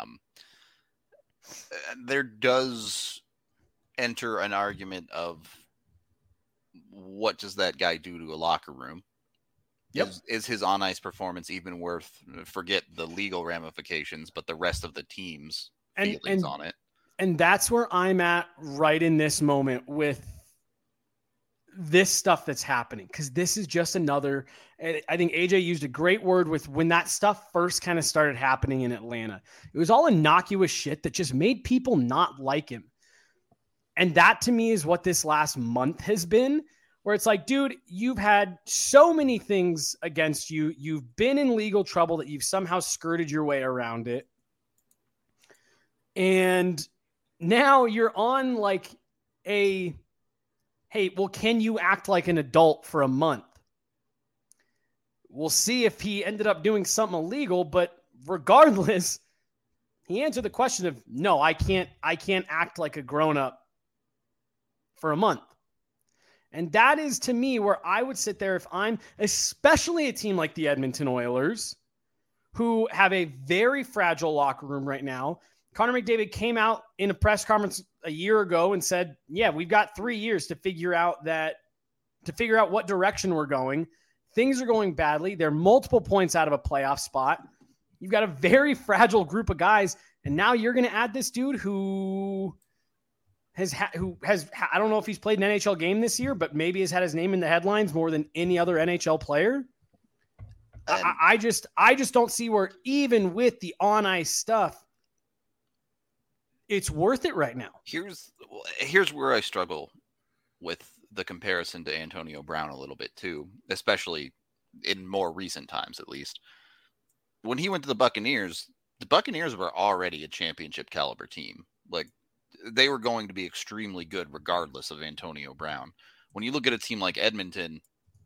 There does enter an argument of what does that guy do to a locker room? Yep. Is his on-ice performance even worth, forget the legal ramifications, but the rest of the team's feelings on it? And that's where I'm at right in this moment with this stuff that's happening, because this is just another. I think AJ used a great word with when that stuff first kind of started happening in Atlanta. It was all innocuous shit that just made people not like him. And that to me is what this last month has been, where it's like, dude, you've had so many things against you. You've been in legal trouble that you've somehow skirted your way around it. And now you're on like a, hey, well, can you act like an adult for a month? We'll see if he ended up doing something illegal, but regardless, he answered the question of, no, I can't act like a grown-up for a month. And that is, to me, where I would sit there if I'm, especially a team like the Edmonton Oilers, who have a very fragile locker room right now. Connor McDavid came out in a press conference a year ago and said, yeah, we've got 3 years to figure out what direction we're going. Things are going badly. They're multiple points out of a playoff spot. You've got a very fragile group of guys. And now you're going to add this dude who has, I don't know if he's played an NHL game this year, but maybe has had his name in the headlines more than any other NHL player. I just don't see where, even with the on ice stuff, it's worth it right now. Here's where I struggle with the comparison to Antonio Brown a little bit too, especially in more recent times, at least. When he went to the Buccaneers were already a championship caliber team. Like, they were going to be extremely good regardless of Antonio Brown. When you look at a team like Edmonton,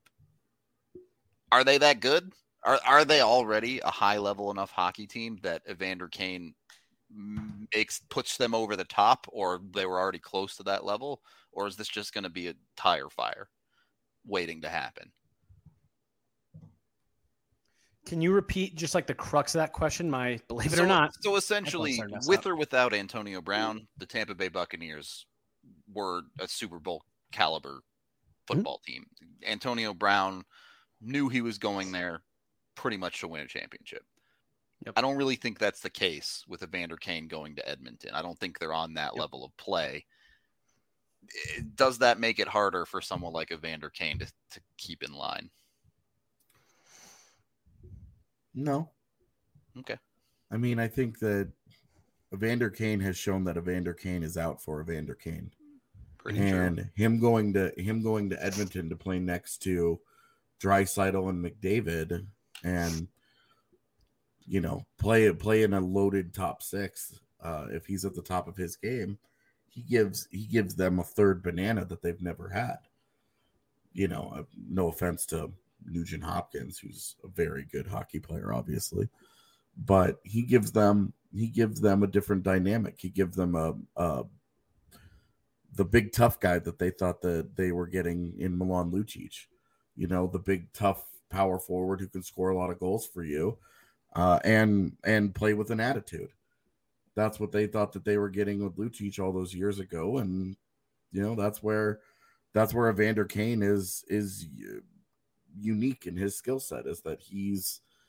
are they that good? Are they already a high level enough hockey team that Evander Kane puts them over the top, or they were already close to that level? Or is this just going to be a tire fire waiting to happen? Can you repeat just like the crux of that question? Believe it or not. So essentially, with or without Antonio Brown, the Tampa Bay Buccaneers were a Super Bowl caliber football team. Antonio Brown knew he was going there pretty much to win a championship. Yep. I don't really think that's the case with Evander Kane going to Edmonton. I don't think they're on that level of play. Does that make it harder for someone like Evander Kane to keep in line? No. Okay. I mean, I think that Evander Kane has shown that Evander Kane is out for Evander Kane. Pretty and true. him going to Edmonton to play next to Draisaitl and McDavid, and play in a loaded top six. If he's at the top of his game, he gives them a third banana that they've never had. No offense to Nugent Hopkins, who's a very good hockey player, obviously, but he gives them a different dynamic. He gives them the big tough guy that they thought that they were getting in Milan Lucic. The big tough power forward who can score a lot of goals for you, and play with an attitude. That's what they thought that they were getting with Lucic all those years ago, and that's where Evander Kane is unique in his skill set, is that he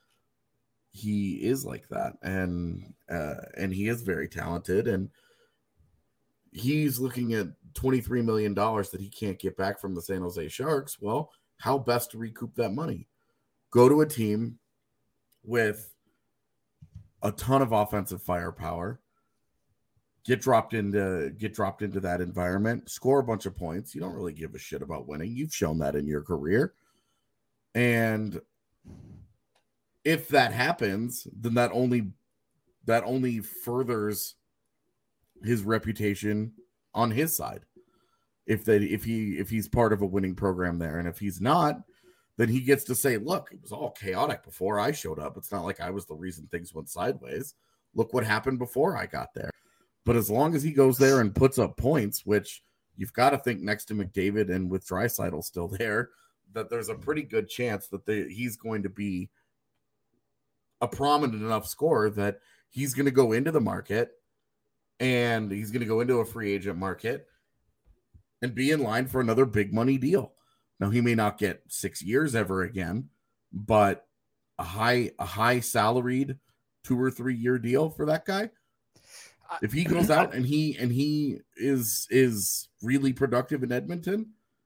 is like that, and he is very talented, and he's looking at $23 million that he can't get back from the San Jose Sharks. Well, how best to recoup that money? Go to a team with a ton of offensive firepower, get dropped into that environment, score a bunch of points. You don't really give a shit about winning. You've shown that in your career. And if that happens, then that only furthers his reputation on his side. If he's part of a winning program there, and if he's not, then he gets to say, look, it was all chaotic before I showed up. It's not like I was the reason things went sideways. Look what happened before I got there. But as long as he goes there and puts up points, which you've got to think next to McDavid and with Draisaitl still there, that there's a pretty good chance that he's going to be a prominent enough scorer that he's going to go into the market, and he's going to go into a free agent market and be in line for another big money deal. Now, he may not get 6 years ever again, but a high salaried 2 or 3 year deal for that guy. If he goes out and he is really productive in Edmonton,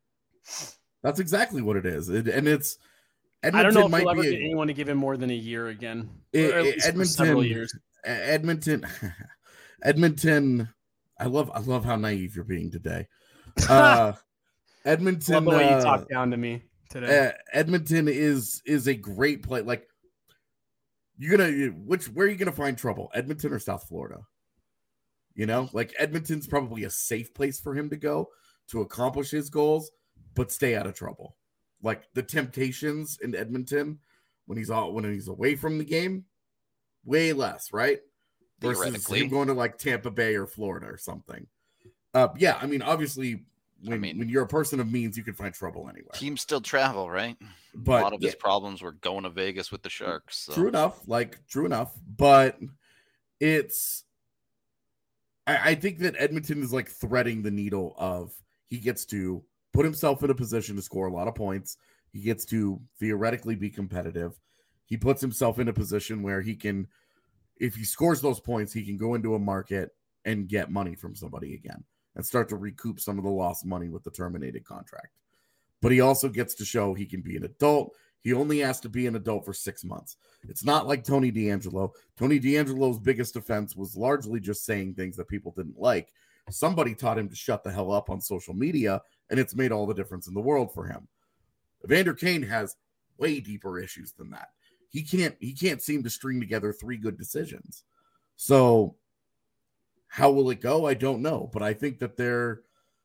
That's exactly what it is. And it's I don't know Edmonton if he'll might ever be get anyone to give him more than a year again. It- Or at it- least for several years. Edmonton. Edmonton. I love how naive you're being today. Edmonton. Love the way you talk down to me today. Edmonton is a great play. Like where are you gonna find trouble? Edmonton or South Florida? You know, like Edmonton's probably a safe place for him to go to accomplish his goals, but stay out of trouble. Like the temptations in Edmonton when he's away from the game, way less, right? Versus him going to like Tampa Bay or Florida or something. Yeah, I mean, obviously, when you're a person of means, you can find trouble anywhere. Teams still travel, right? But a lot of his problems were going to Vegas with the Sharks. So. True enough. But it's. I think that Edmonton is like threading the needle of he gets to put himself in a position to score a lot of points. He gets to theoretically be competitive. He puts himself in a position where he can, if he scores those points, he can go into a market and get money from somebody again and start to recoup some of the lost money with the terminated contract. But he also gets to show he can be an adult. He only has to be an adult for 6 months. It's not like Tony DeAngelo. Tony DeAngelo's biggest offense was largely just saying things that people didn't like. Somebody taught him to shut the hell up on social media, and it's made all the difference in the world for him. Evander Kane has way deeper issues than that. He can't seem to string together 3 good decisions. So how will it go? I don't know, but I think that there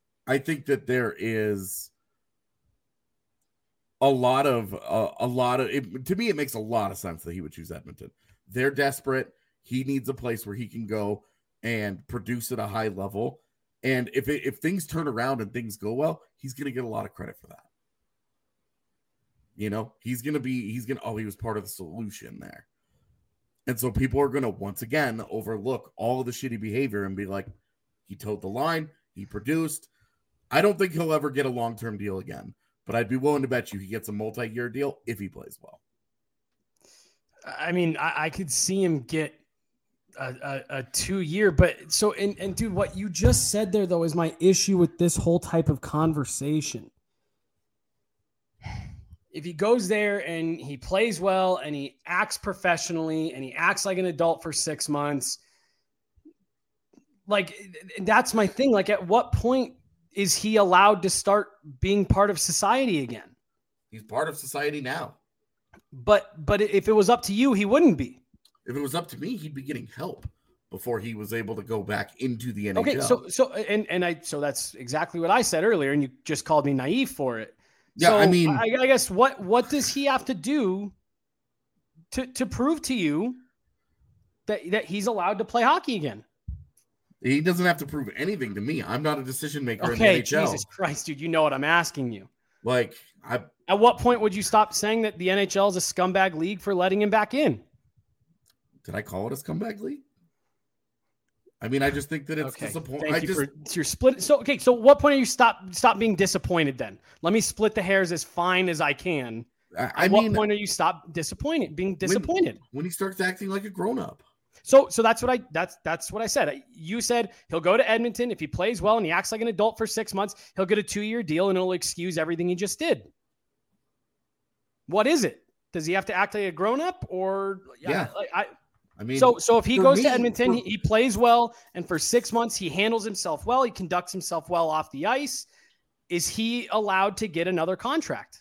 is a lot of it, to me, it makes a lot of sense that he would choose Edmonton. They're desperate. He needs a place where he can go and produce at a high level. And if things turn around and things go well, he's going to get a lot of credit for that. You know, he was part of the solution there. And so people are going to once again overlook all of the shitty behavior and be like, he towed the line, he produced. I don't think he'll ever get a long-term deal again. But I'd be willing to bet you he gets a multi-year deal if he plays well. I mean, I could see him get a 2-year, but so, and dude, what you just said there though is my issue with this whole type of conversation. If he goes there and he plays well and he acts professionally and he acts like an adult for 6 months, like that's my thing. Like at what point is he allowed to start being part of society again? He's part of society now. But if it was up to you, he wouldn't be. If it was up to me, he'd be getting help before he was able to go back into the NHL. Okay, so that's exactly what I said earlier, and you just called me naive for it. Yeah, so I mean, I guess what does he have to do to prove to you that he's allowed to play hockey again? He doesn't have to prove anything to me. I'm not a decision maker in the NHL. Jesus Christ, dude, you know what I'm asking you. Like, at what point would you stop saying that the NHL is a scumbag league for letting him back in? Did I call it a scumbag league? I mean, I just think that it's disappointing. You're split. So what point are you stop being disappointed then? Let me split the hairs as fine as I can. At what point are you being disappointed? When he starts acting like a grown-up. So that's what I said. You said he'll go to Edmonton. If he plays well and he acts like an adult for 6 months, he'll get a 2-year deal and it'll excuse everything he just did. What is it? Does he have to act like a grown-up or yeah? I mean, so if he goes to Edmonton, he plays well, and for 6 months he handles himself well, he conducts himself well off the ice. Is he allowed to get another contract?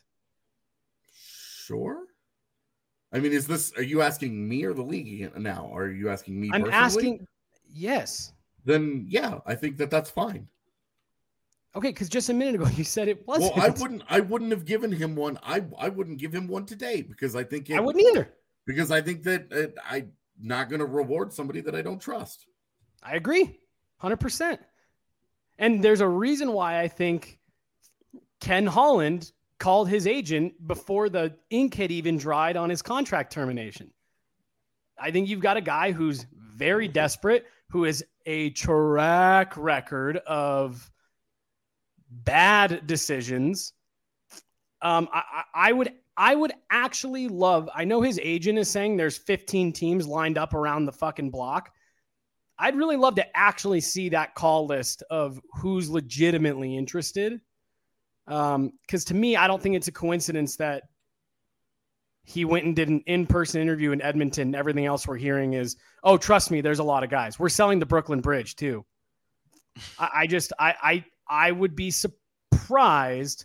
Sure. I mean, are you asking me or the league now? Or are you asking me? I'm asking. Yes. Then yeah, I think that's fine. Okay, because just a minute ago you said it wasn't. Well, I wouldn't have given him one. I wouldn't give him one today because I think I wouldn't either. Because I think that I'm not going to reward somebody that I don't trust. I agree, 100%. And there's a reason why I think Ken Holland called his agent before the ink had even dried on his contract termination. I think you've got a guy who's very desperate, who has a track record of bad decisions. I would actually love, I know his agent is saying there's 15 teams lined up around the fucking block. I'd really love to actually see that call list of who's legitimately interested. Because to me, I don't think it's a coincidence that he went and did an in-person interview in Edmonton. Everything else we're hearing is, oh, trust me, there's a lot of guys. We're selling the Brooklyn Bridge too. I would be surprised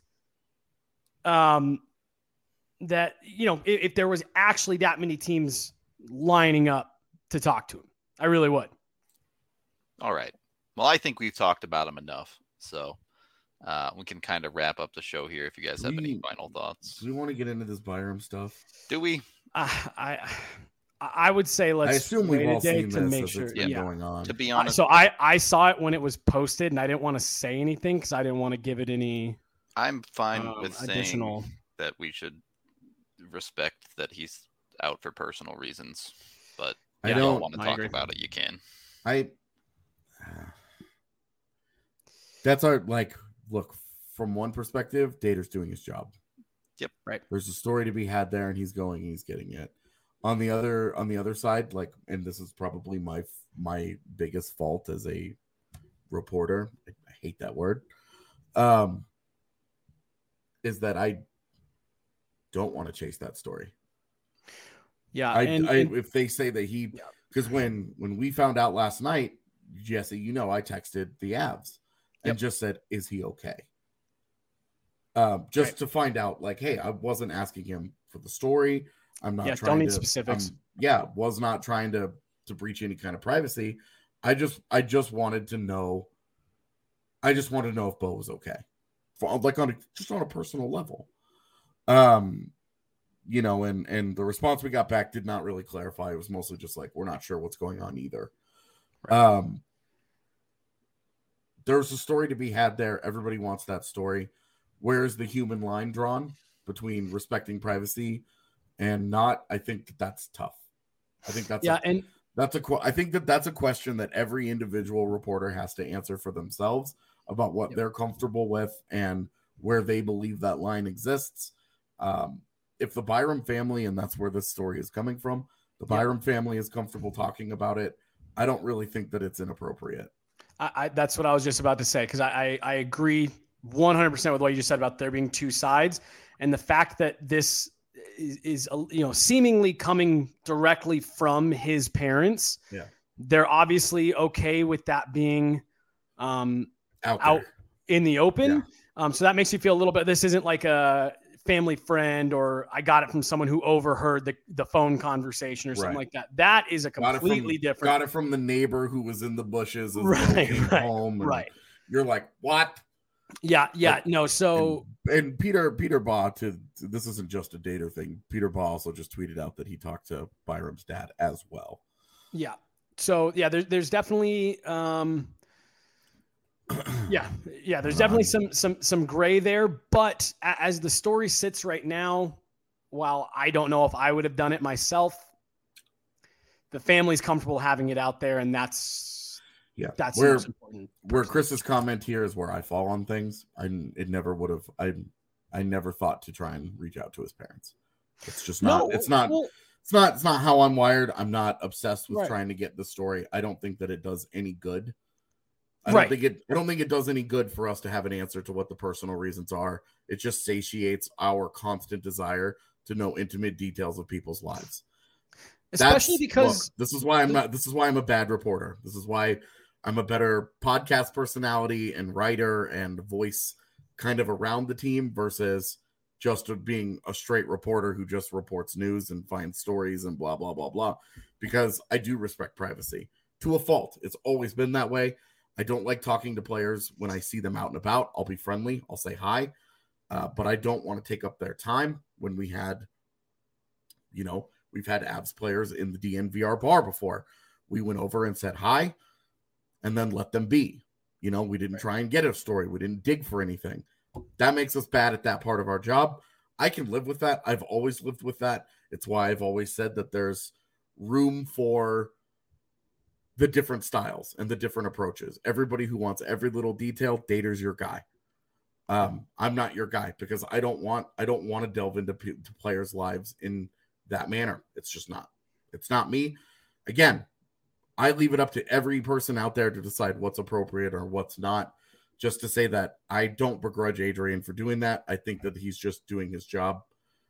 that, if there was actually that many teams lining up to talk to him. I really would. All right. Well, I think we've talked about him enough. So we can kind of wrap up the show here if you guys have any final thoughts. Do we want to get into this Byram stuff? Do we? I would say let's. I assume we've all seen to this make as sure. it's been going on. To be honest, so I saw it when it was posted, and I didn't want to say anything because I didn't want to give it any. I'm fine with additional... saying that we should respect that he's out for personal reasons, but I don't want to talk about it. You can. That's our look from one perspective. Dater's doing his job. Yep. Right. There's a story to be had there, and he's getting it. On the other side, and this is probably my biggest fault as a reporter. I hate that word. Is that I don't want to chase that story. Yeah. If they say that because when we found out last night, Jesse, I texted the Avs and just said, is he okay? To find out, hey, I wasn't asking him for the story. I'm not trying don't need to specifics. Was not trying to breach any kind of privacy. I just wanted to know. I just wanted to know if Bo was okay, on a personal level. And the response we got back did not really clarify. It was mostly just we're not sure what's going on either. Right. There's a story to be had there. Everybody wants that story. Where's the human line drawn between respecting privacy and not? I think that's tough. I think that's I think that's a question that every individual reporter has to answer for themselves about what they're comfortable with and where they believe that line exists. If the Byram family, and that's where this story is coming from, the Byram family is comfortable talking about it, I don't really think that it's inappropriate. That's what I was just about to say, because I agree 100% with what you just said about there being two sides, and the fact that this is seemingly coming directly from his parents. Yeah, they're obviously okay with that being out in the open. Yeah. So that makes you feel a little bit. This isn't like a family friend or I got it from someone who overheard the phone conversation or something like that. That is a completely different. Got it from the neighbor who was in the bushes as came home. And you're like, what? Yeah. No. So and Peter Baugh, this isn't just a Dater thing. Peter Baugh also just tweeted out that he talked to Byram's dad as well. Yeah. So there's definitely there's definitely some gray there, but as the story sits right now, while I don't know if I would have done it myself, the family's comfortable having it out there, and that's the most important. Where Chris's comment here is where I fall on things. I never thought to try and reach out to his parents. It's just not. It's not how I'm wired. I'm not obsessed with trying to get the story. I don't think that it does any good. I don't think it does any good for us to have an answer to what the personal reasons are. It just satiates our constant desire to know intimate details of people's lives. Especially because this is why I'm a bad reporter. This is why I'm a better podcast personality and writer and voice kind of around the team versus just being a straight reporter who just reports news and finds stories and blah, blah, blah, blah. Because I do respect privacy to a fault. It's always been that way. I don't like talking to players when I see them out and about. I'll be friendly. I'll say hi. But I don't want to take up their time when we've had Avs players in the DNVR bar before. We went over and said hi and then let them be. We didn't try and get a story. We didn't dig for anything. That makes us bad at that part of our job. I can live with that. I've always lived with that. It's why I've always said that there's room for the different styles and the different approaches. Everybody who wants every little detail, Dater's your guy. I'm not your guy because I don't want to delve into players' lives in that manner. It's not me. Again, I leave it up to every person out there to decide what's appropriate or what's not. just to say that I don't begrudge Adrian for doing that. I think that he's just doing his job.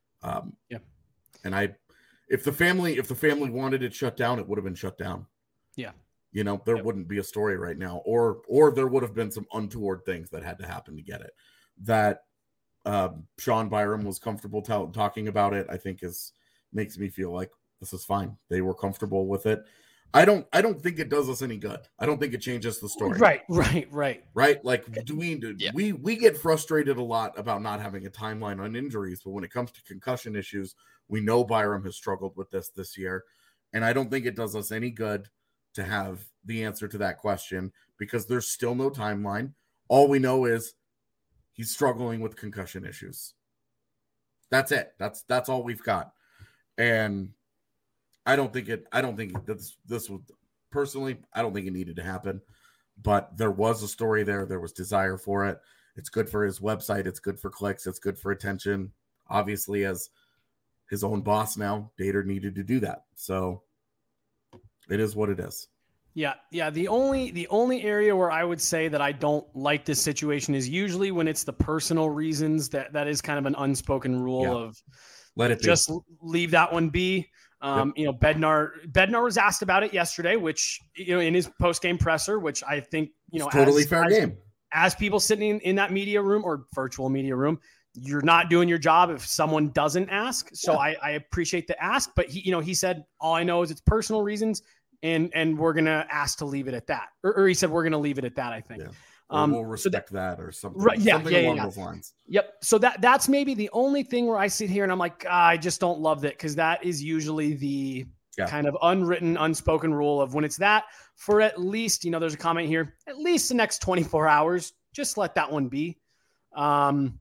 And if the family wanted it shut down, it would have been shut down. Yeah. There wouldn't be a story right now, or there would have been some untoward things that had to happen to get it. That Sean Byram was comfortable talking about it, I think makes me feel like this is fine. They were comfortable with it. I don't think it does us any good. I don't think it changes the story. Right. Like, we get frustrated a lot about not having a timeline on injuries, but when it comes to concussion issues, we know Byram has struggled with this year, and I don't think it does us any good to have the answer to that question because there's still no timeline. All we know is he's struggling with concussion issues. That's it. That's all we've got. And I don't think this would personally, I don't think it needed to happen, but there was a story there. There was desire for it. It's good for his website. It's good for clicks. It's good for attention. Obviously, as his own boss now, Dater needed to do that. So it is what it is. Yeah. The only area where I would say that I don't like this situation is usually when it's the personal reasons that is kind of an unspoken rule of let it be. Just leave that one be. Bednar was asked about it yesterday, which, in his post-game presser, which I think, it's totally fair game. As people sitting in that media room or virtual media room, you're not doing your job if someone doesn't ask. So I appreciate the ask, but he said, all I know is it's personal reasons and we're going to ask to leave it at that. Or he said, we're going to leave it at that, I think. Yeah. We'll respect that or something. Right, something along those lines. Yep. So that's maybe the only thing where I sit here and I'm like, I just don't love that, because that is usually the kind of unwritten, unspoken rule of when it's that for at least, there's a comment here, at least the next 24 hours, just let that one be. But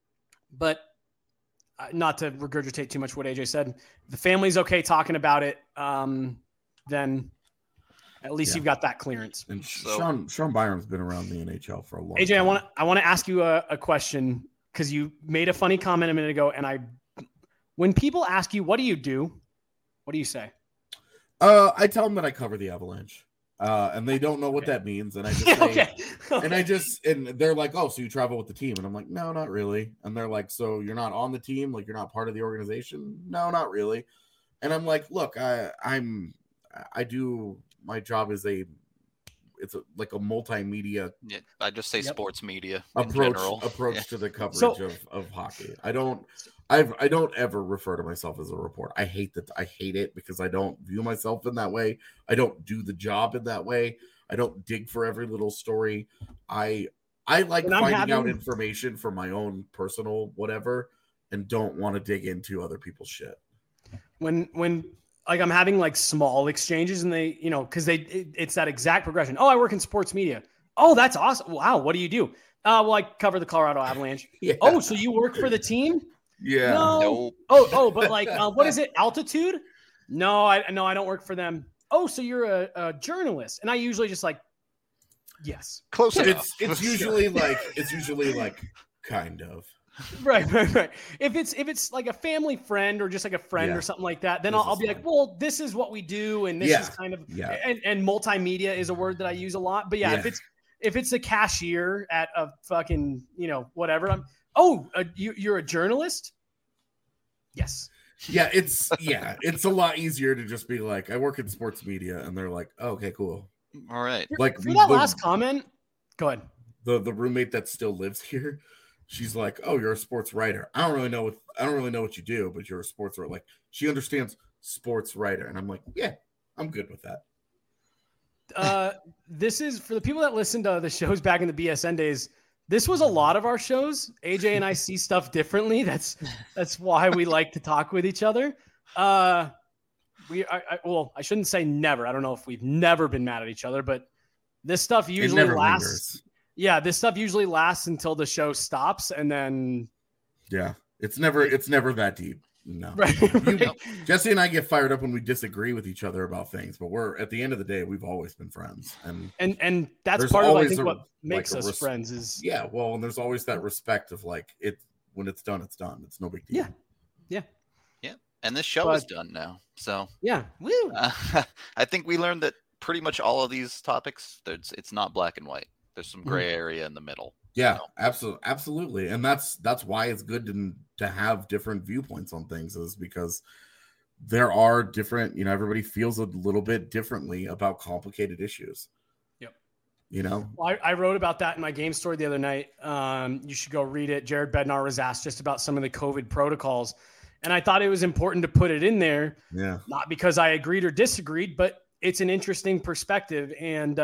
not to regurgitate too much what AJ said, if the family's okay talking about it, then at least you've got that clearance. And Sean Byram's been around the NHL for a long AJ, time. I want to ask you a question, because you made a funny comment a minute ago, and when people ask you, what do you do? What do you say? I tell them that I cover the Avalanche, and they don't know what that means. And I just say, and they're like, oh, so you travel with the team? And I'm like, no, not really. And they're like, so you're not on the team? Like, you're not part of the organization? No, not really. And I'm like, look, I do. My job is it's like a multimedia. Yeah, I just say sports media approach to the coverage of hockey. I don't ever refer to myself as a reporter. I hate that. I hate it because I don't view myself in that way. I don't do the job in that way. I don't dig for every little story. I like finding out information for my own personal whatever, and don't want to dig into other people's shit. When like I'm having like small exchanges and they, because it's that exact progression. Oh, I work in sports media. Oh, that's awesome. Wow. What do you do? Well, I cover the Colorado Avalanche. Yeah. Oh, so you work for the team? Yeah. No. Oh, but like, what is it? Altitude? No, I don't work for them. Oh, so you're a journalist. And I usually just like, yes. Close enough. It's usually like kind of. Right. If it's like a family friend or just like a friend or something like that, then I'll be like, well, this is what we do, and this is kind of and multimedia is a word that I use a lot. But if it's a cashier at a fucking whatever, you're a journalist. Yes. Yeah, it's a lot easier to just be like, I work in sports media, and they're like, oh, okay, cool. All right. Like for that last comment, go ahead. The roommate that still lives here. She's like, "Oh, you're a sports writer. I don't really know what you do, but you're a sports writer." Like, she understands sports writer, and I'm like, "Yeah, I'm good with that." This is for the people that listened to the shows back in the BSN days. This was a lot of our shows. AJ and I see stuff differently. That's why we like to talk with each other. I shouldn't say never. I don't know if we've never been mad at each other, but this stuff usually lasts. Lingers. Yeah, this stuff usually lasts until the show stops, and then it's never that deep. No, right. Jesse and I get fired up when we disagree with each other about things, but we're at the end of the day, we've always been friends, and that's part of I think what makes us friends is and there's always that respect of like it when it's done, it's no big deal. Yeah. And this show is done now, so woo. I think we learned that pretty much all of these topics, it's not black and white. There's some gray area in the middle. Yeah, absolutely. And that's why it's good to have different viewpoints on things, is because there are different, everybody feels a little bit differently about complicated issues. Well, I wrote about that in my game story the other night. You should go read it. Jared Bednar was asked just about some of the COVID protocols. And I thought it was important to put it in there. Yeah. Not because I agreed or disagreed, but it's an interesting perspective. And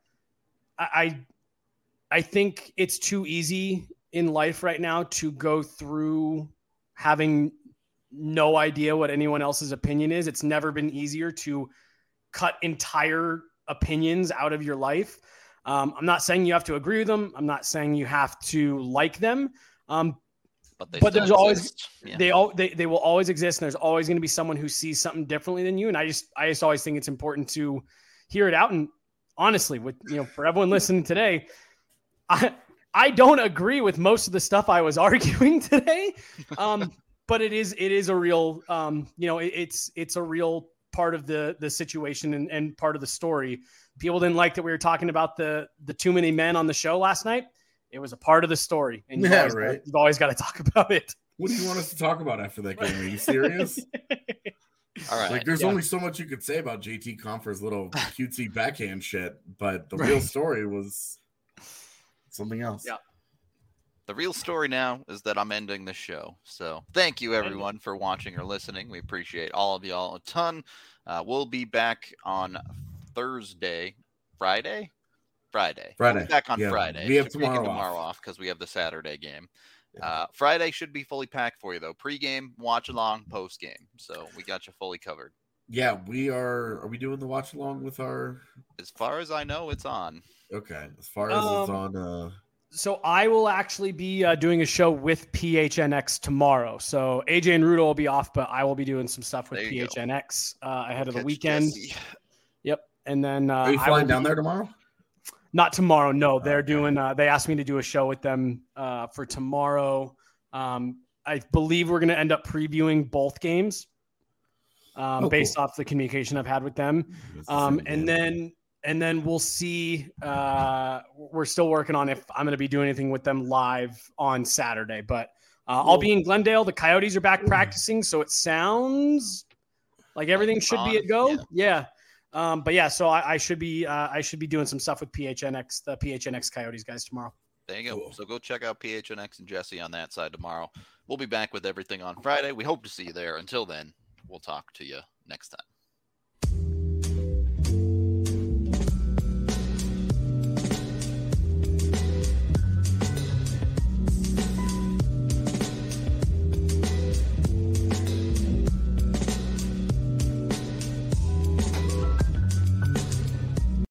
I think it's too easy in life right now to go through having no idea what anyone else's opinion is. It's never been easier to cut entire opinions out of your life. I'm not saying you have to agree with them. I'm not saying you have to like them. But there's always, they will always exist. And there's always going to be someone who sees something differently than you. And I just always think it's important to hear it out. And honestly, for everyone listening today, I don't agree with most of the stuff I was arguing today. But it is a real, it's a real part of the situation and part of the story. People didn't like that we were talking about the too many men on the show last night. It was a part of the story, and you've always got to talk about it. What do you want us to talk about after that game? Are you serious? All right. Like, there's only so much you could say about JT Compher's little cutesy backhand shit, but the real story was something else. Yeah. The real story now is that I'm ending the show. So thank you, everyone, for watching or listening. We appreciate all of y'all a ton. We'll be back on Friday. We'll be back on Friday. We have tomorrow off because we have the Saturday game. Friday should be fully packed for you, though. Pre-game, watch-along, post-game. So we got you fully covered. Yeah, we are. Are we doing the watch-along with our... As far as I know, it's on. Okay. As far as it's on... So I will actually be doing a show with PHNX tomorrow. So AJ and Rudo will be off, but I will be doing some stuff with PHNX ahead of the weekend. Jesse. Yep. And then are you flying down there tomorrow? Not tomorrow. No, they're doing. They asked me to do a show with them for tomorrow. I believe we're going to end up previewing both games based off the communication I've had with them. And then we'll see. We're still working on if I'm going to be doing anything with them live on Saturday, but I'll be in Glendale. The Coyotes are back practicing, so it sounds like everything should be a go. Yeah. But yeah, so I should be doing some stuff with PHNX, the PHNX Coyotes guys tomorrow. There you go. Cool. So go check out PHNX and Jesse on that side tomorrow. We'll be back with everything on Friday. We hope to see you there. Until then, we'll talk to you next time.